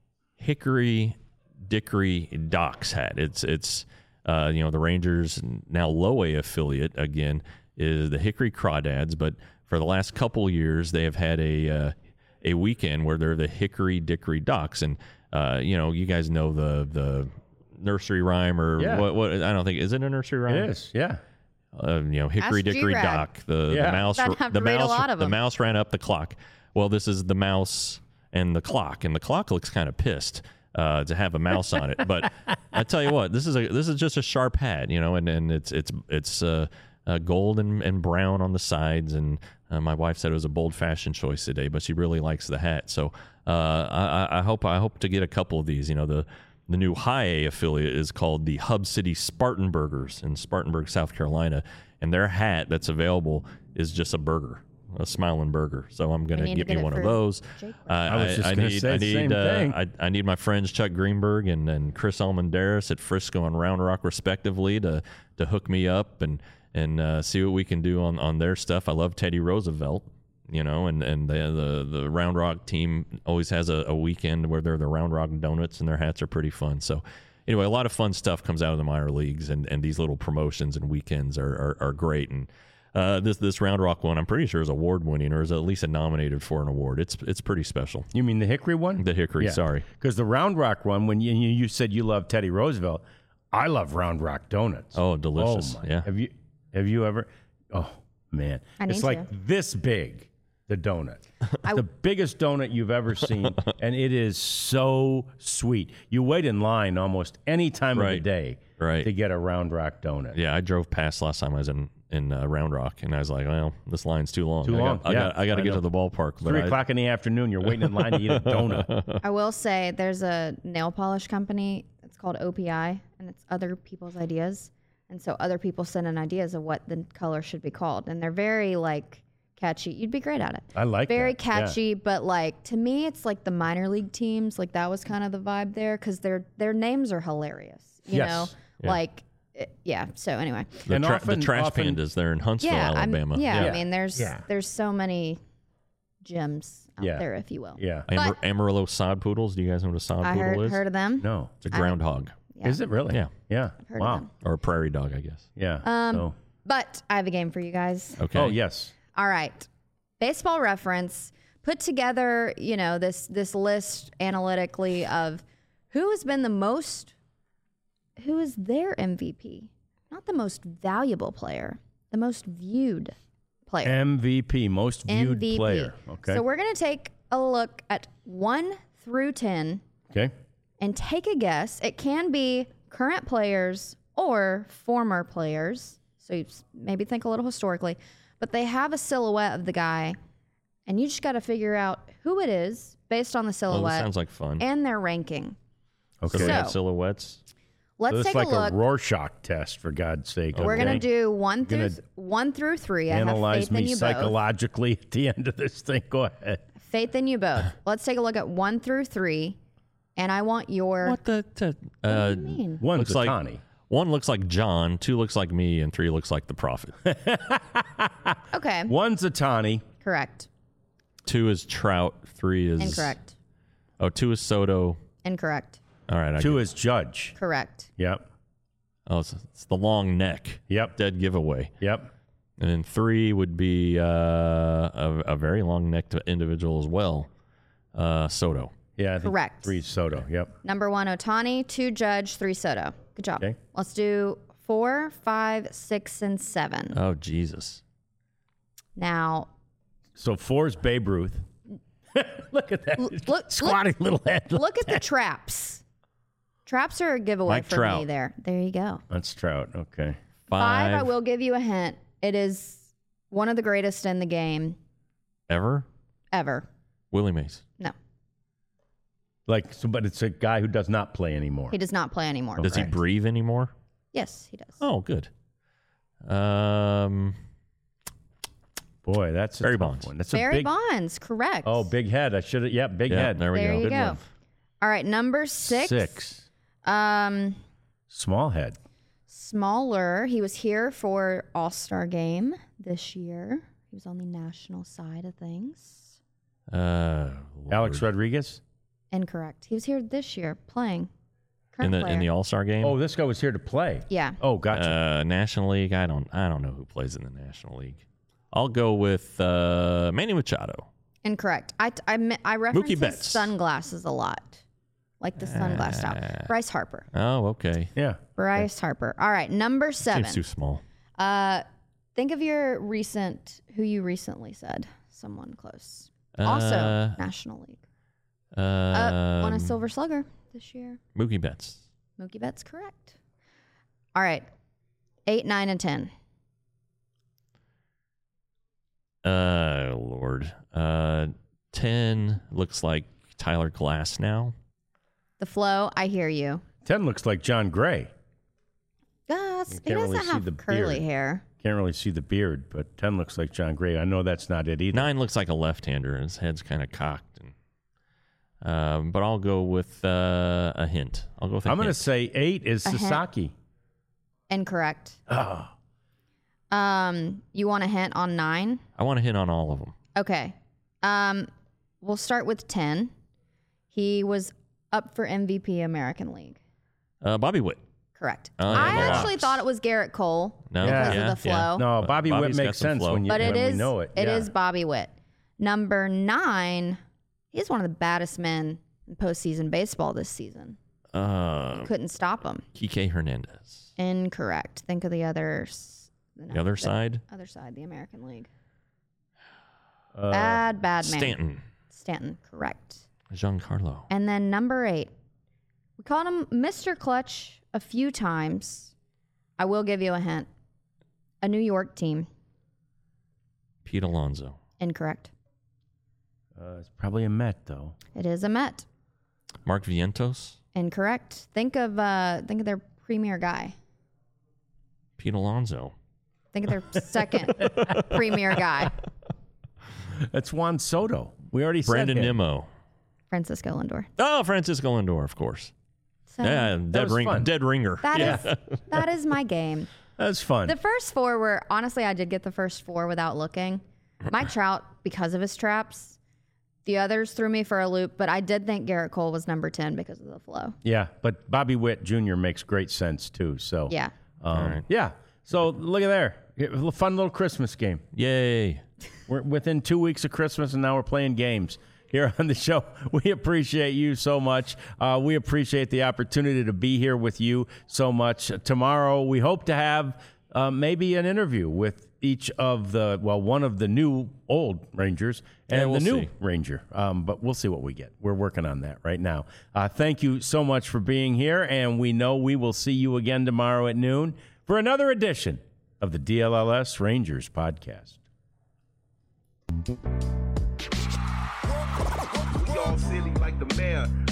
Hickory Dickory Docks hat. It's it's uh, you know, the Rangers now low A affiliate again is the Hickory Crawdads, but for the last couple years they have had a uh, a weekend where they're the Hickory Dickory Docks, and uh, you know, you guys know the the nursery rhyme or Yeah. what, what? I don't think is it a nursery rhyme. It is. Yeah. Uh, you know, Hickory Ask Dickory G-Rad. Dock. The, Yeah. the mouse. I'd have the to read a mouse. lot of the them. mouse ran up the clock. Well, this is the mouse and the clock, and the clock looks kind of pissed uh, to have a mouse on it. But I tell you what, this is a this is just a sharp hat, you know, and, and it's it's it's uh, uh, gold and, and brown on the sides. And uh, my wife said it was a bold fashion choice today, but she really likes the hat. So uh, I, I hope I hope to get a couple of these. You know, the The new high A affiliate is called the Hub City Spartanburgers in Spartanburg, South Carolina, and their hat that's available is just a burger, a smiling burger. So I'm going We to need get to me get it one of for those. Jake. Uh, I was just I gonna need, say I the need, same uh, thing. I, I need my friends Chuck Greenberg and, and Chris Almendaris at Frisco and Round Rock, respectively, to to hook me up and and uh, see what we can do on, on their stuff. I love Teddy Roosevelt. You know, and, and the, the the Round Rock team always has a, a weekend where they're the Round Rock Donuts, and their hats are pretty fun. So anyway, a lot of fun stuff comes out of the minor leagues, and, and these little promotions and weekends are, are, are great. And uh, this this Round Rock one, I'm pretty sure is award winning, or is at least nominated for an award. It's it's pretty special. You mean the Hickory one? The Hickory, sorry. Because the Round Rock one, when you, you you said you love Teddy Roosevelt, I love Round Rock donuts. Oh, delicious. Oh my. Yeah. Have you have you ever? Oh man, I it's need like to. this big. The donut, I- the biggest donut you've ever seen, and it is so sweet. You wait in line almost any time of the Right. day Right. to get a Round Rock donut. Yeah, I drove past last time I was in in uh, Round Rock, and I was like, well, this line's too long. Too I got- long, I yeah, got, I got to I get know. to the ballpark. But Three I- o'clock in the afternoon, you're waiting in line to eat a donut. I will say there's a nail polish company. It's called O P I, and it's other people's ideas. And so other people send in ideas of what the color should be called, and they're very like catchy. You'd be great at it. I like very that, yeah. catchy, but like to me, it's like the minor league teams. Like that was kind of the vibe there because their their names are hilarious. You Yes. know, Yeah. like it, yeah. So anyway, the, And tra- often- the Trash often- Pandas, they're in Huntsville, yeah, I'm- Alabama. yeah, Yeah. I mean, there's Yeah. there's so many gems out Yeah. there, if you will. Yeah. Amar- But- Amarillo sod poodles. Do you guys know what a sod I poodle heard is? heard of them. No. It's a groundhog. Yeah. Is it really? Yeah. Yeah. Heard of wow. them. Or a prairie dog, I guess. Yeah. Um, so. But I have a game for you guys. Okay. Oh yes. All right. Baseball Reference put together, you know, this this list analytically of who has been the most who is their M V P. Not the most valuable player, the most viewed player. M V P, most viewed M V P. player. Okay. So we're going to take a look at one through ten okay. and take a guess. It can be current players or former players. So you s- maybe think a little historically. But they have a silhouette of the guy, and you just got to figure out who it is based on the Oh, silhouette that sounds like fun. and their ranking. Okay. So they have So- silhouettes. Let's So it's take like a look. a Rorschach test, for God's sake. We're okay? going to do one through Gonna th- one through three. I have Analyze faith in me you both. psychologically at the end of this thing. Go ahead. Faith in you both. Let's take a look at one through three, and I want your. What the? T- What uh, do you mean? One's looks a like Tawny. one looks like John, two looks like me, and three looks like the prophet. Okay, One's a Tawny. correct. Two is Trout. Three is Incorrect. Oh, two is Soto. Incorrect. All right. I Two get- is Judge. Correct. Yep. Oh, it's, it's the long neck. Yep. Dead giveaway. Yep. And then three would be uh, a, a very long necked individual as well. Uh, Soto. Yeah. I think Correct. Three Soto. Yep. Number one, Otani. Two, Judge. Three, Soto. Good job. Okay. Let's do four, five, six, and seven. Oh, Jesus. Now, So four's Babe Ruth. Look at that. L- look- Squatty little head. look at the traps. Traps are a giveaway Mike for Trout. me there. There you go. That's Trout. Okay. Five, Five. I will give you a hint. It is one of the greatest in the game Ever? ever. Willie Mays. No, Like, so, but it's a guy who does not play anymore. he does not play anymore. Does he Correct. breathe anymore? Yes, he does. Oh, good. Um, Boy, that's a Barry tough Bonds. one. That's a Barry big. Bonds, correct. Oh, big head. I should have. Yep, big yeah, head. there we There go. you Good go. one. All right, number six. Six. Um, Small head. smaller. He was here for All-Star Game this year. He was on the national side of things. Uh, Alex Lord. Rodriguez. Incorrect. He was here this year playing. in Current the player. in the All Star game. Oh, this guy was here to play. Yeah. Oh, gotcha. Uh, National League. I don't. I don't know who plays in the National League. I'll go with uh, Manny Machado. Incorrect. I, I, me- I reference Mookie his Betts. sunglasses a lot. Like the sunglass Ah. style. Bryce Harper. Oh, okay. yeah. Bryce Harper. All right, number seven. Seems too small. Uh, think of your recent, who you recently said, someone close. Also, Uh, National League. Uh, Uh, won a Silver Slugger this year. Mookie Betts. Mookie Betts, correct. All right, eight, nine, and ten. Uh, Lord. Uh, ten looks like Tyler Glass now. The flow, I hear you. Ten looks like John Gray. Yes, You he can't doesn't really see have the curly beard. hair. Can't really see the beard, but ten looks like John Gray. I know that's not it either. Nine looks like a left-hander. His head's kind of cocked. And, um, but I'll go with uh, a hint. I'll go with a I'm going to hint. say eight is A hint. Sasaki. Incorrect. Oh. Um, you want a hint on nine? I want to hit on all of them. Okay. Um, we'll start with ten. He was up for M V P American League. Uh, Bobby Witt. Correct. Oh, yeah, I the actually locks. thought it was Garrett Cole No, Yeah. because yeah, of the yeah. flow. No, But Bobby Bobby's Witt got makes some sense flow. when you But it when is we know it. it yeah. is Bobby Witt. Number nine, he's one of the baddest men in postseason baseball this season. Uh, Couldn't stop him. Kike Hernandez. Incorrect. Think of the others. The other side? Other side, the American League. Uh, Bad, bad man. Stanton. Stanton, correct. Giancarlo. And then number eight, we called him Mister Clutch a few times. I will give you a hint. A New York team. Pete Alonso. Incorrect. uh, it's probably a Met, though. It is a Met. Mark Vientos. Incorrect. Think of uh, think of their premier guy. Pete Alonso. Think of their second premier guy, That's Juan Soto. We already Brandon said him. Nimmo. Francisco Lindor. Oh, Francisco Lindor, of course. So Yeah, dead was ring, fun. dead ringer. that yeah. is that is my game. That's fun. The first four were honestly, I did get the first four without looking. Mike Trout because of his traps. The others threw me for a loop, but I did think Garrett Cole was number ten because of the flow. yeah, but Bobby Witt Junior makes great sense, too. So Yeah. um, All right. Yeah. So look at there. A fun little Christmas game. Yay. We're within two weeks of Christmas, and now we're playing games here on the show. We appreciate you so much. Uh, we appreciate the opportunity to be here with you so much. Tomorrow, we hope to have uh, maybe an interview with each of the, well, one of the new old Rangers and Yeah, we'll the new see. Ranger. Um, but we'll see what we get. We're working on that right now. Uh, thank you so much for being here, and we know we will see you again tomorrow at noon for another edition of the D L L S Rangers podcast. We all silly like the mayor.